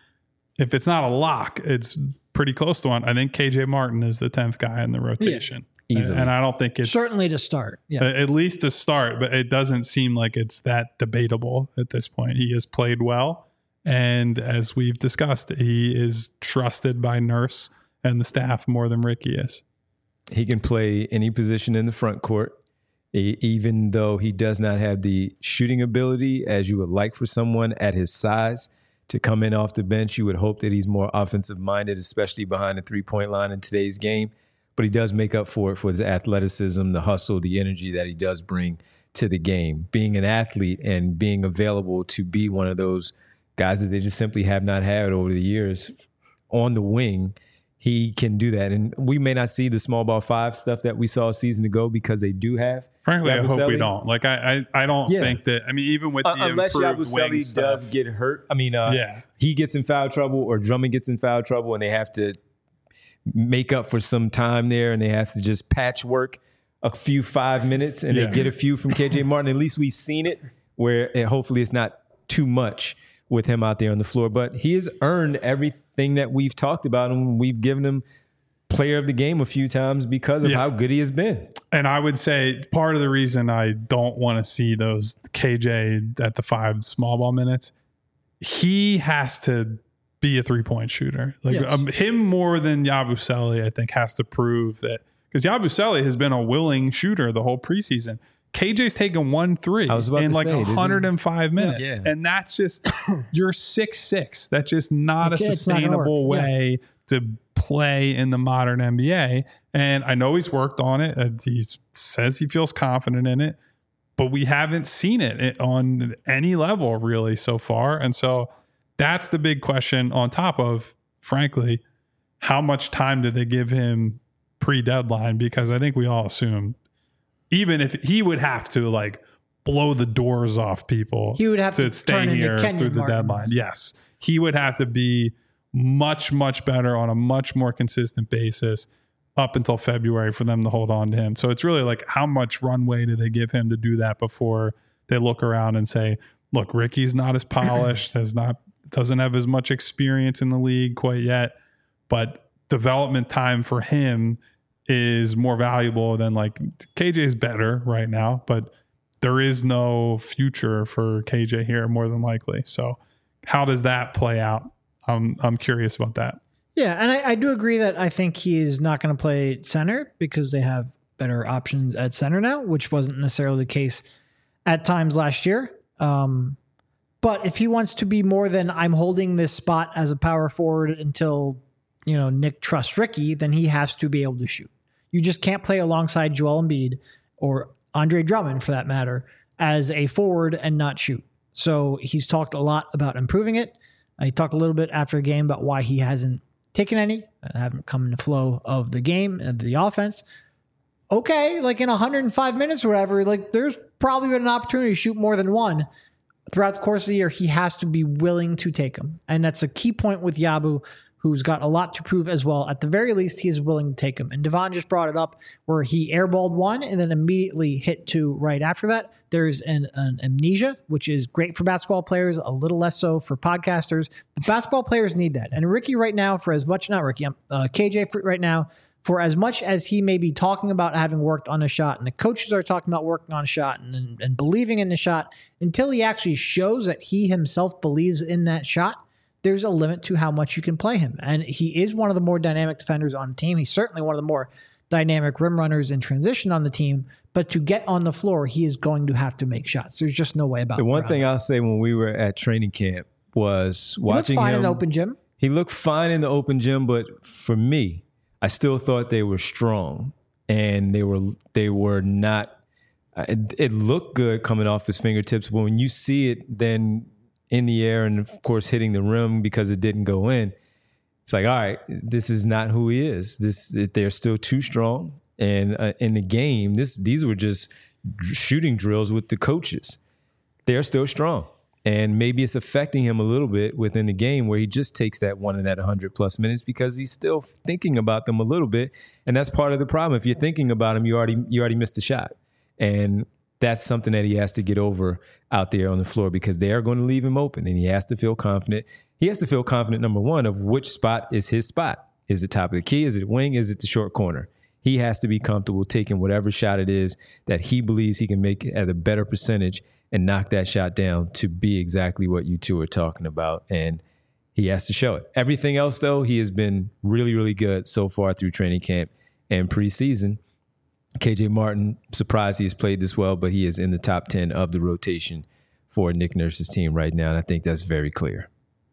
if it's not a lock, it's pretty close to one. I think K J Martin is the tenth guy in the rotation. Yeah, easily. And I don't think it's... Certainly to start. Yeah. At least to start, but it doesn't seem like it's that debatable at this point. He has played well. And as we've discussed, he is trusted by Nurse and the staff more than Ricky is. He can play any position in the front court, even though he does not have the shooting ability as you would like for someone at his size to come in off the bench. You would hope that he's more offensive minded, especially behind the three-point line in today's game. But he does make up for it for his athleticism, the hustle, the energy that he does bring to the game. Being an athlete and being available to be one of those guys that they just simply have not had over the years on the wing, he can do that. And we may not see the small ball five stuff that we saw a season ago because they do have. Frankly, Yabusele. I hope we don't. Like, I I, I don't yeah. think that, I mean, even with the uh, unless improved Yabusele wing does stuff, get hurt. I mean, uh, yeah. he gets in foul trouble or Drummond gets in foul trouble and they have to make up for some time there and they have to just patchwork a few five minutes and Yeah. they get a few from K J Martin. At least we've seen it where it, hopefully it's not too much with him out there on the floor. But he has earned everything that we've talked about, and we've given him player of the game a few times because of Yeah. how good he has been. And I would say part of the reason I don't want to see those K J at the five small ball minutes, he has to be a three point shooter. Like Yes. um, him more than Yabusele, I think, has to prove that, because Yabusele has been a willing shooter the whole preseason. K J's taken one three I was about in to like say, one hundred five minutes. Yeah. And that's just, you're six six. That's just not a Okay, it's not gonna sustainable work. Yeah. way to play in the modern N B A. And I know he's worked on it. Uh, He says he feels confident in it, but we haven't seen it on any level really so far. And so that's the big question, on top of, frankly, how much time did they give him pre-deadline? Because I think we all assume, even if he would have to like blow the doors off people, He would have to stay turn into here Kenyon through the Martin. deadline. Yes, he would have to be much, much better on a much more consistent basis up until February for them to hold on to him. So it's really like, how much runway do they give him to do that before they look around and say, look, Ricky's not as polished, has not, doesn't have as much experience in the league quite yet, but development time for him is more valuable than, like, K J is better right now, but there is no future for K J here more than likely. So how does that play out? I'm I'm curious about that. Yeah, and I, I do agree that I think he is not going to play center because they have better options at center now, which wasn't necessarily the case at times last year. Um, but if he wants to be more than I'm holding this spot as a power forward until, you know, Nick trusts Ricky, then he has to be able to shoot. You just can't play alongside Joel Embiid or Andre Drummond, for that matter, as a forward and not shoot. So he's talked a lot about improving it. He talked a little bit after the game about why he hasn't taken any, uh, haven't come in the flow of the game, of the offense. Okay, like in one hundred five minutes or whatever, like there's probably been an opportunity to shoot more than one. Throughout the course of the year, he has to be willing to take them. And that's a key point with Yabu, who's got a lot to prove as well. At the very least, he is willing to take them. And Devon just brought it up where he airballed one and then immediately hit two right after that. There's an, an amnesia, which is great for basketball players, a little less so for podcasters. But basketball players need that. And Ricky right now, for as much, not Ricky, uh, K J for right now, for as much as he may be talking about having worked on a shot, and the coaches are talking about working on a shot and, and, and believing in the shot, until he actually shows that he himself believes in that shot, there's a limit to how much you can play him. And he is one of the more dynamic defenders on the team. He's certainly one of the more dynamic rim runners in transition on the team. But to get on the floor, he is going to have to make shots. There's just no way about it. The one thing I'll say when we were at training camp was He looked watching fine him. in the open gym. He looked fine in the open gym, but for me, I still thought they were strong, and they were they were not. It, it looked good coming off his fingertips, but when you see it then in the air and of course hitting the rim because it didn't go in, it's like, all right, this is not who he is. This they're still too strong, and uh, in the game, this these were just shooting drills with the coaches. They're still strong. And maybe it's affecting him a little bit within the game where he just takes that one in that one hundred plus minutes because he's still thinking about them a little bit. And that's part of the problem. If you're thinking about him, you already you already missed a shot. And that's something that he has to get over out there on the floor because they are going to leave him open and he has to feel confident. He has to feel confident, number one, of which spot is his spot. Is it top of the key? Is it wing? Is it the short corner? He has to be comfortable taking whatever shot it is that he believes he can make at a better percentage and knock that shot down to be exactly what you two are talking about. And he has to show it. Everything else, though, he has been really, really good so far through training camp and preseason. K J Martin, surprised he has played this well, but he is in the top ten of the rotation for Nick Nurse's team right now. And I think that's very clear.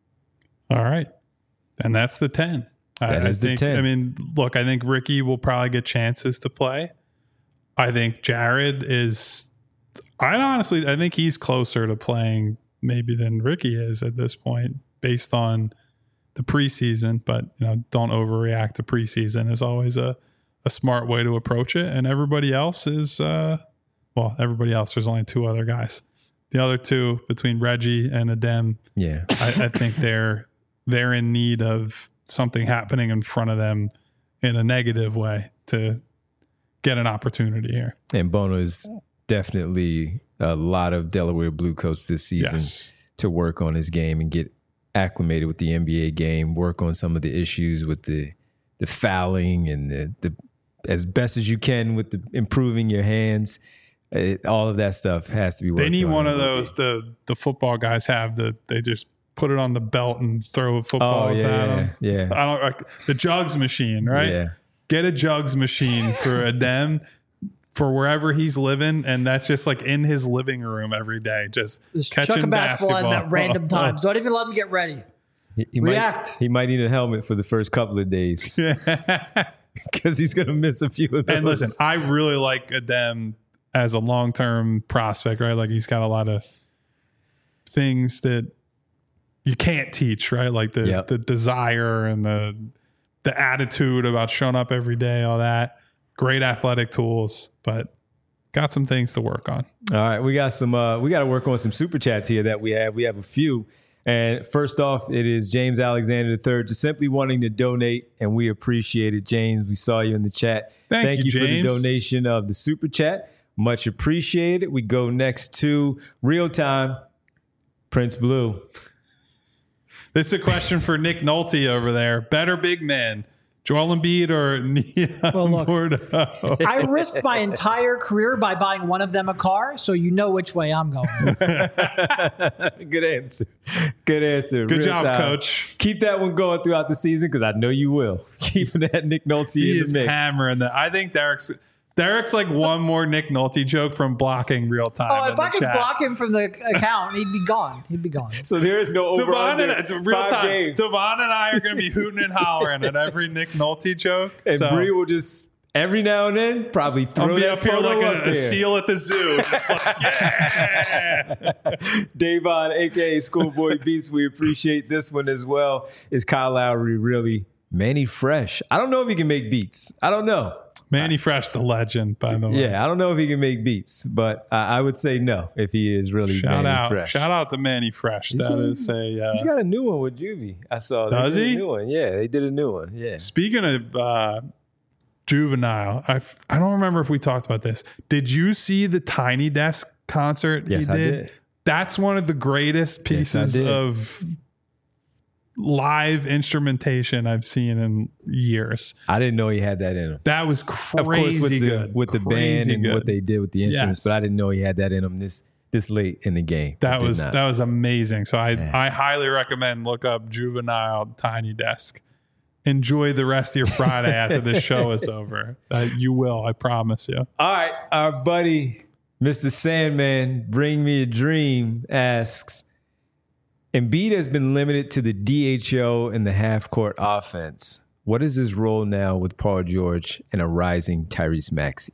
All right. And that's the ten. That I, is I think, the ten. I mean, look, I think Ricky will probably get chances to play. I think Jared is... I honestly, I think he's closer to playing maybe than Ricky is at this point based on the preseason, but you know, don't overreact to preseason is always a, a smart way to approach it. And everybody else is, uh, well, everybody else, there's only two other guys. The other two between Reggie and Adem, Yeah. I, I think they're, they're in need of something happening in front of them in a negative way to get an opportunity here. And Bono is definitely a lot of Delaware Blue coats this season Yes. to work on his game and get acclimated with the N B A game, work on some of the issues with the the fouling and the, the as best as you can with the improving your hands. It, all of that stuff has to be worked on. They need one in of the those league. the the football guys have that they just put it on the belt and throw Oh, footballs yeah, at yeah, them. yeah. I don't like the jugs machine, right? Yeah. Get a jugs machine for Adem for wherever he's living, and that's just like in his living room every day, just, Just catching chuck a basketball, basketball in at random times. Don't even let him get ready. He, he React. Might, he might need a helmet for the first couple of days because he's going to miss a few of those. And listen, I really like Adem as a long-term prospect, right? Like he's got a lot of things that you can't teach, right? Like the Yep. the desire and the the attitude about showing up every day, all that. Great athletic tools, but got some things to work on. All right, we got some. Uh, we got to work on some super chats here that we have. We have a few. And first off, it is James Alexander the third, just simply wanting to donate, and we appreciate it, James. We saw you in the chat. Thank you, you for the James. donation of the super chat. Much appreciated. We go next to real time Prince Blue. This is a question for Nick Nolte over there. Better big man, Joel Embiid or Nia Well, look. Bordeaux? I risked my entire career by buying one of them a car, so you know which way I'm going. Good answer. Good answer. Good Real job, time. coach. Keep that one going throughout the season because I know you will. Keeping that Nick Nolte He in is the mix. hammering that. I think Derek's Derek's like one more Nick Nolte joke from blocking real time. Oh, in if the I could chat. block him from the account, he'd be gone. He'd be gone. So there is no over Devon under and real five time. games. Devon and I are going to be hooting and hollering at every Nick Nolte joke. And so Bree will just every now and then probably throw I'll be that up here photo like up a, a there. seal at the zoo. Just like, yeah. Davon, aka Schoolboy Beats, we appreciate this one as well. Is Kyle Lowry really Manny Fresh? I don't know if he can make beats. I don't know. Manny Fresh, the legend, by the way. Yeah, I don't know if he can make beats, but I, I would say no if he is really Shout Manny out, Fresh. shout out to Manny Fresh. That a- is a. Uh, He's got a new one with Juvie. I saw. They Does did he? A new one. Yeah, they did a new one. Yeah. Speaking of uh, Juvenile, I f- I don't remember if we talked about this. Did you see the Tiny Desk concert Yes, he I did? did. That's one of the greatest Yes, I pieces did. of live instrumentation I've seen in years. I didn't know he had that in him. That was crazy Of course, with the good. with the band Crazy and good. what they did with the instruments, Yes. but I didn't know he had that in him this this late in the game. I That did was not. that was amazing. So I Yeah. I highly recommend look up Juvenile Tiny Desk. Enjoy the rest of your Friday after this show is over. Uh, you will, I promise you. All right, our buddy Mister Sandman, Bring Me a Dream asks, Embiid has been limited to the D H O and the half-court offense. What is his role now with Paul George and a rising Tyrese Maxey?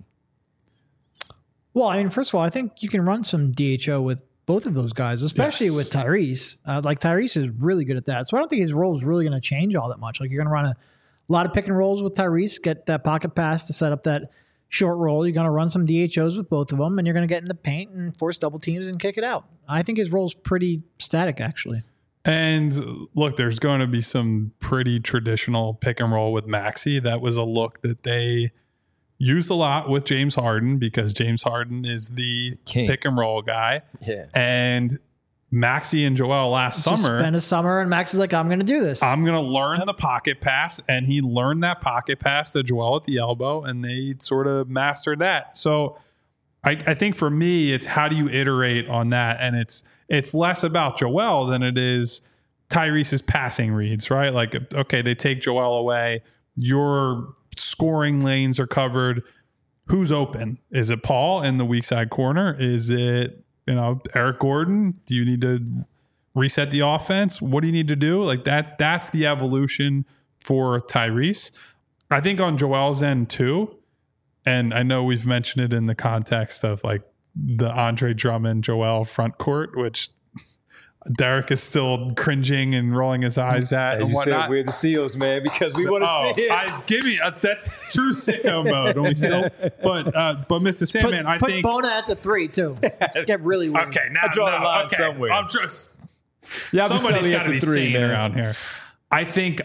Well, I mean, first of all, I think you can run some D H O with both of those guys, especially Yes. with Tyrese. Uh, like Tyrese is really good at that. So I don't think his role is really going to change all that much. Like you're going to run a lot of pick and rolls with Tyrese, get that pocket pass to set up that short roll. You're going to run some D H Os with both of them, and you're going to get in the paint and force double teams and kick it out. I think his role is pretty static, actually. And look, there's going to be some pretty traditional pick and roll with Maxey. That was a look that they used a lot with James Harden because James Harden is the King. pick and roll guy. Yeah. And Maxey and Joel last Just summer, spend a summer, and Max is like, I'm going to do this. I'm going to learn the pocket pass. And he learned that pocket pass to Joel at the elbow, and they sort of mastered that. So I, I think for me, it's how do you iterate on that? And it's it's less about Joel than it is Tyrese's passing reads, right? Like, okay, they take Joel away. Your scoring lanes are covered. Who's open? Is it Paul in the weak side corner? Is it, you know, Eric Gordon? Do you need to reset the offense? What do you need to do? Like that, that's the evolution for Tyrese. I think on Joel's end too, and I know we've mentioned it in the context of like the Andre Drummond Joel front court, which Derek is still cringing and rolling his eyes at As and you whatnot. said, we're the Seals, man, because we want to Oh, see it. I, give me a, that's true sicko mode when we see that. But uh, but Mister put Sandman, I put think Bona at the three, too. Let's get really weird. okay. Now I draw the no, line okay. somewhere. I'm just Yeah, I'm somebody's selling got at to the be three, sane man. around here. I think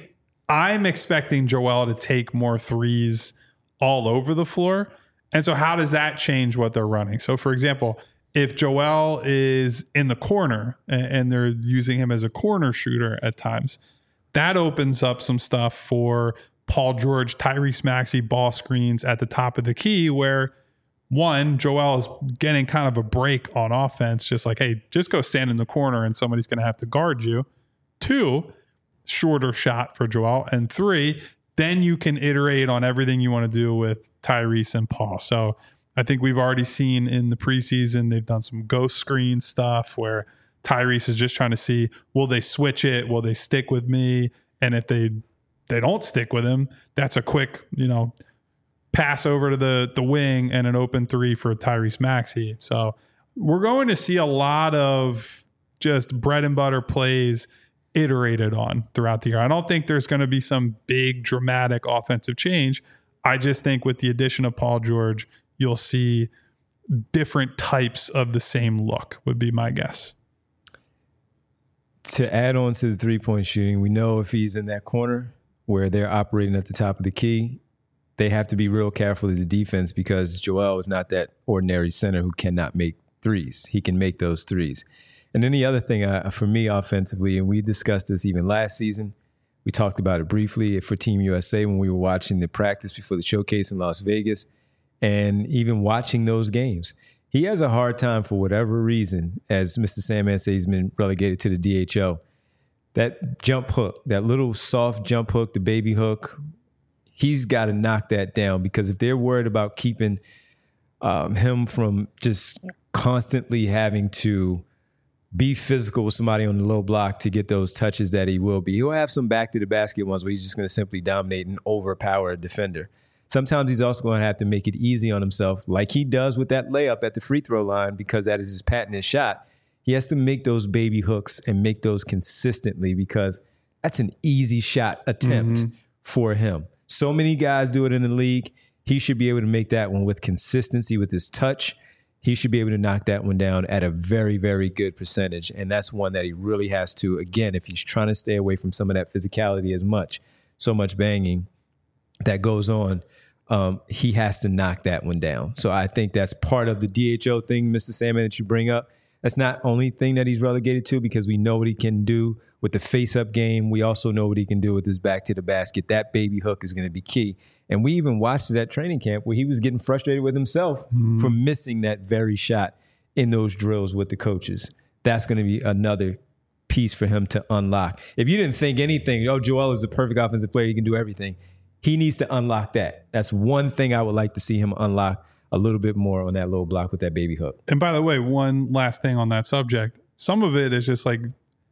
I'm expecting Joel to take more threes all over the floor. And so how does that change what they're running? So, for example, if Joel is in the corner and they're using him as a corner shooter at times, that opens up some stuff for Paul George, Tyrese Maxey ball screens at the top of the key where, one, Joel is getting kind of a break on offense, just like, hey, just go stand in the corner and somebody's going to have to guard you. Two, shorter shot for Joel. And three, then you can iterate on everything you want to do with Tyrese and Paul. So I think we've already seen in the preseason, they've done some ghost screen stuff where Tyrese is just trying to see, will they switch it? Will they stick with me? And if they they don't stick with him, that's a quick, you know, pass over to the, the wing and an open three for Tyrese Maxey. So we're going to see a lot of just bread and butter plays iterated on throughout the year. I don't think there's going to be some big dramatic offensive change. I just think with the addition of Paul George, you'll see different types of the same look would be my guess. To add on to the three-point shooting, we know if he's in that corner where they're operating at the top of the key, they have to be real careful of the defense because Joel is not that ordinary center who cannot make threes. He can make those threes. And then the other thing uh, for me offensively, and we discussed this even last season, we talked about it briefly for Team U S A when we were watching the practice before the showcase in Las Vegas, and even watching those games. He has a hard time for whatever reason, as Mister Sandman says, he's been relegated to the D H O. That jump hook, that little soft jump hook, the baby hook, he's got to knock that down because if they're worried about keeping um, him from just constantly having to be physical with somebody on the low block to get those touches that he will be. He'll have some back to the basket ones where he's just going to simply dominate and overpower a defender. Sometimes he's also going to have to make it easy on himself like he does with that layup at the free throw line because that is his patented shot. He has to make those baby hooks and make those consistently because that's an easy shot attempt mm-hmm. for him. So many guys do it in the league. He should be able to make that one with consistency with his touch. He should be able to knock that one down at a very, very good percentage. And that's one that he really has to, again, if he's trying to stay away from some of that physicality as much, so much banging that goes on, um, he has to knock that one down. So I think that's part of the D H O thing, Mister Salmon, that you bring up. That's not only thing that he's relegated to because we know what he can do with the face-up game. We also know what he can do with his back to the basket. That baby hook is going to be key. And we even watched it at training camp where he was getting frustrated with himself mm-hmm. for missing that very shot in those drills with the coaches. That's going to be another piece for him to unlock. If you didn't think anything, oh, Joel is a perfect offensive player, he can do everything. He needs to unlock that. That's one thing I would like to see him unlock a little bit more on that low block with that baby hook. And by the way, one last thing on that subject. Some of it is just like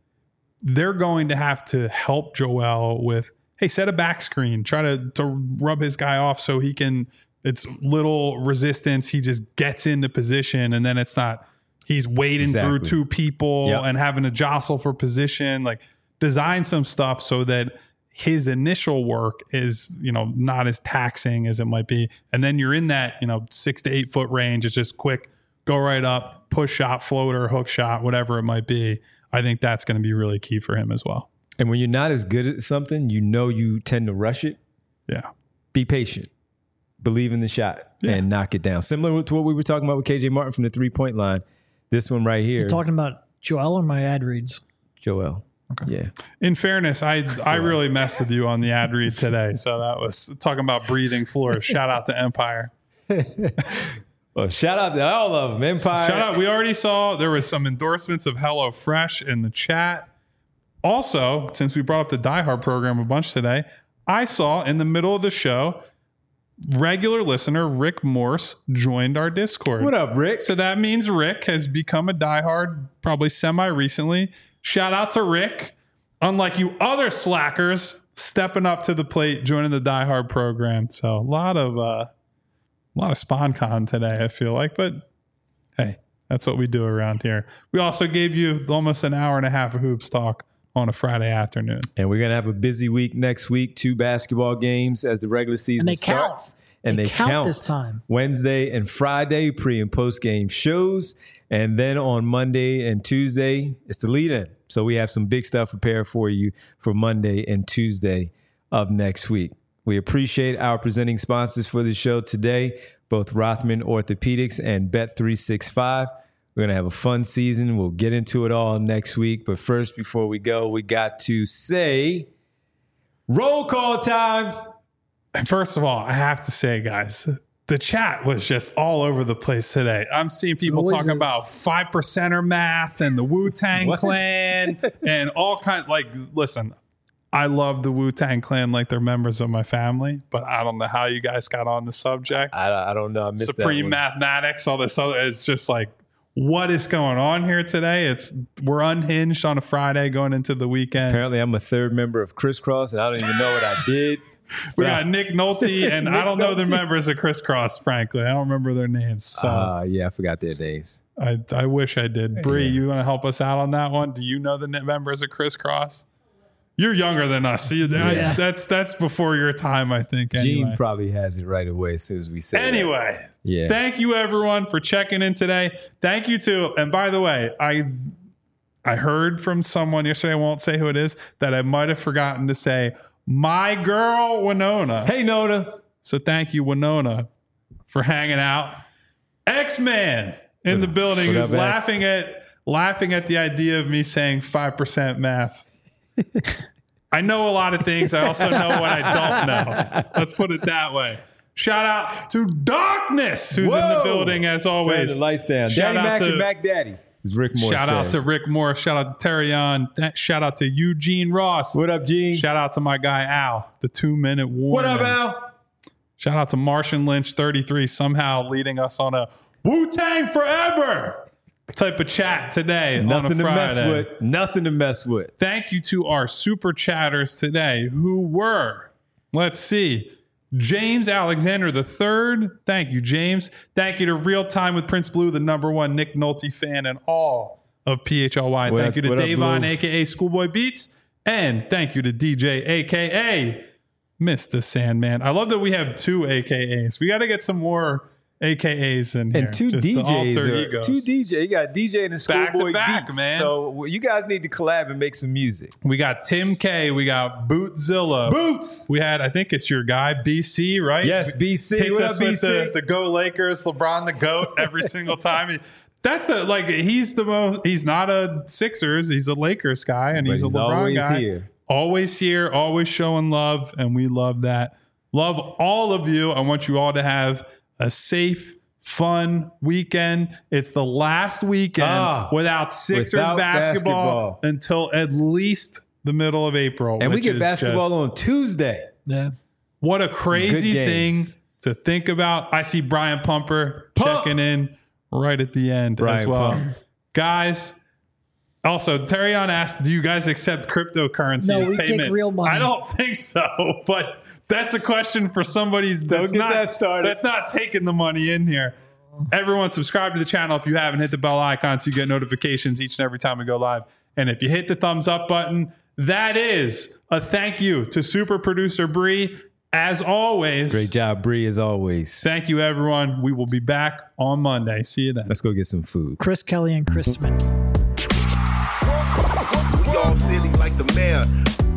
they're going to have to help Joel with, hey, set a back screen. Try to, to rub his guy off so he can, it's little resistance. He just gets into position and then it's not, he's wading exactly. through two people yep. and having to jostle for position. Like design some stuff so that his initial work is, you know, not as taxing as it might be. And then you're in that, you know, six to eight foot range. It's just quick, go right up, push shot, floater, hook shot, whatever it might be. I think that's going to be really key for him as well. And when you're not as good at something, you know you tend to rush it. Yeah. Be patient. Believe in the shot yeah. and knock it down. Similar to what we were talking about with K J Martin from the three-point line. This one right here. You're talking about Joel or my ad reads? Joel. Okay. Yeah. In fairness, I I really messed with you on the ad read today. So that was talking about breathing floors. Shout out to Empire. Well, shout out to all of them. Empire. Shout out. We already saw there was some endorsements of HelloFresh in the chat. Also, since we brought up the Die Hard program a bunch today, I saw in the middle of the show, regular listener Rick Morse joined our Discord. What up, Rick? So that means Rick has become a Die Hard probably semi-recently. Shout out to Rick. Unlike you other slackers, stepping up to the plate, joining the Die Hard program. So a lot of uh, a lot of SpawnCon today, I feel like. But hey, that's what we do around here. We also gave you almost an hour and a half of hoops talk on a Friday afternoon. And we're going to have a busy week next week. Two basketball games as the regular season and they starts. Count. And they, they count, count this time. Wednesday and Friday, pre and post game shows. And then on Monday and Tuesday, it's the lead in. So we have some big stuff prepared for you for Monday and Tuesday of next week. We appreciate our presenting sponsors for the show today, both Rothman Orthopedics and Bet three sixty-five. We're going to have a fun season. We'll get into it all next week. But first, before we go, we got to say roll call time. And first of all, I have to say, guys, the chat was just all over the place today. I'm seeing people Noises. talking about five percenter math and the Wu-Tang Clan and all kinds. Like, listen, I love the Wu-Tang Clan like they're members of my family, but I don't know how you guys got on the subject. I, I don't know. I missed Supreme that one. mathematics, all this other. It's just like, what is going on here today? It's we're unhinged on a Friday going into the weekend. Apparently, I'm a third member of Crisscross, and I don't even know what I did. We got Nick Nolte, and Nick I don't know the Nolte. members of Crisscross, frankly. I don't remember their names. So Uh, yeah, I forgot their names. I, I wish I did. Bree, Yeah. you want to help us out on that one? Do you know the n- members of Crisscross? You're younger than us. So you, I- Yeah. that's that's before your time, I think. Anyway. Gene probably has it right away as soon as we say that. Anyway, Yeah. thank you everyone for checking in today. Thank you to, and by the way, I I heard from someone yesterday, I won't say who it is, that I might have forgotten to say my girl Winona. Hey, Nona. So thank you, Winona, for hanging out. X-Man in the building what who's up, X? laughing at laughing at the idea of me saying five percent math. I know a lot of things. I also know what I don't know. Let's put it that way. Shout out to Darkness, who's in the Whoa. building as Turn always. the lights down. Shout Daddy out Mac to- and Mac Daddy. As Rick Moore Shout out to says. Rick Morris. Shout out to Terry on. Th- Shout out to Eugene Ross. What up, Gene? Shout out to my guy Al, the two minute warning. What up, Al? Shout out to Martian Lynch thirty-three, somehow leading us on a Wu-Tang forever type of chat today Nothing on to a mess Friday. with. Nothing to mess with. Thank you to our super chatters today who were, let's see, James Alexander the third. Thank you, James. Thank you to Real Time with Prince Blue, the number one Nick Nolte fan and all of P H L Y. What Thank up- you to what up, Davon, Blue? a k a. Schoolboy Beats. And thank you to D J, a k a. Mister Sandman. I love that we have two A K As. We got to get some more A K As in here. And two just the D Js. alter Are, egos. two D J. You got D J and the Back to Schoolboy back, Beats. man. So well, you guys need to collab and make some music. We got Tim K. We got Bootzilla. Boots. We had, I think it's your guy, B C, right? Yes, B C. Hits What us up, B with C? the, the Go Lakers, LeBron the GOAT every single time. He- That's the, like, he's the most, he's not a Sixers, he's a Lakers guy, and But he's a he's LeBron always guy. here. Always here, always showing love, and we love that. Love all of you. I want you all to have a safe, fun weekend. It's the last weekend Ah, without Sixers without basketball, basketball. until at least the middle of April. And we which get is basketball just- on Tuesday. Yeah. What a crazy good thing games. to think about. I see Brian Pumper Pump. checking in right at the end as Brian well. Pump. Guys, also, Terrion asked, do you guys accept cryptocurrency No, as we take payment? real money. I don't think so, but that's a question for somebody's that's get not that started. that's not taking the money in here. Everyone subscribe to the channel if you haven't. Hit the bell icon so you get notifications each and every time we go live. And if you hit the thumbs up button, that is a thank you to super producer Bree. As always, Great job, Bree, as always. thank you, everyone. We will be back on Monday. See you then. Let's go get some food. Chris Kelly and Chris Smith. We all silly like the mayor.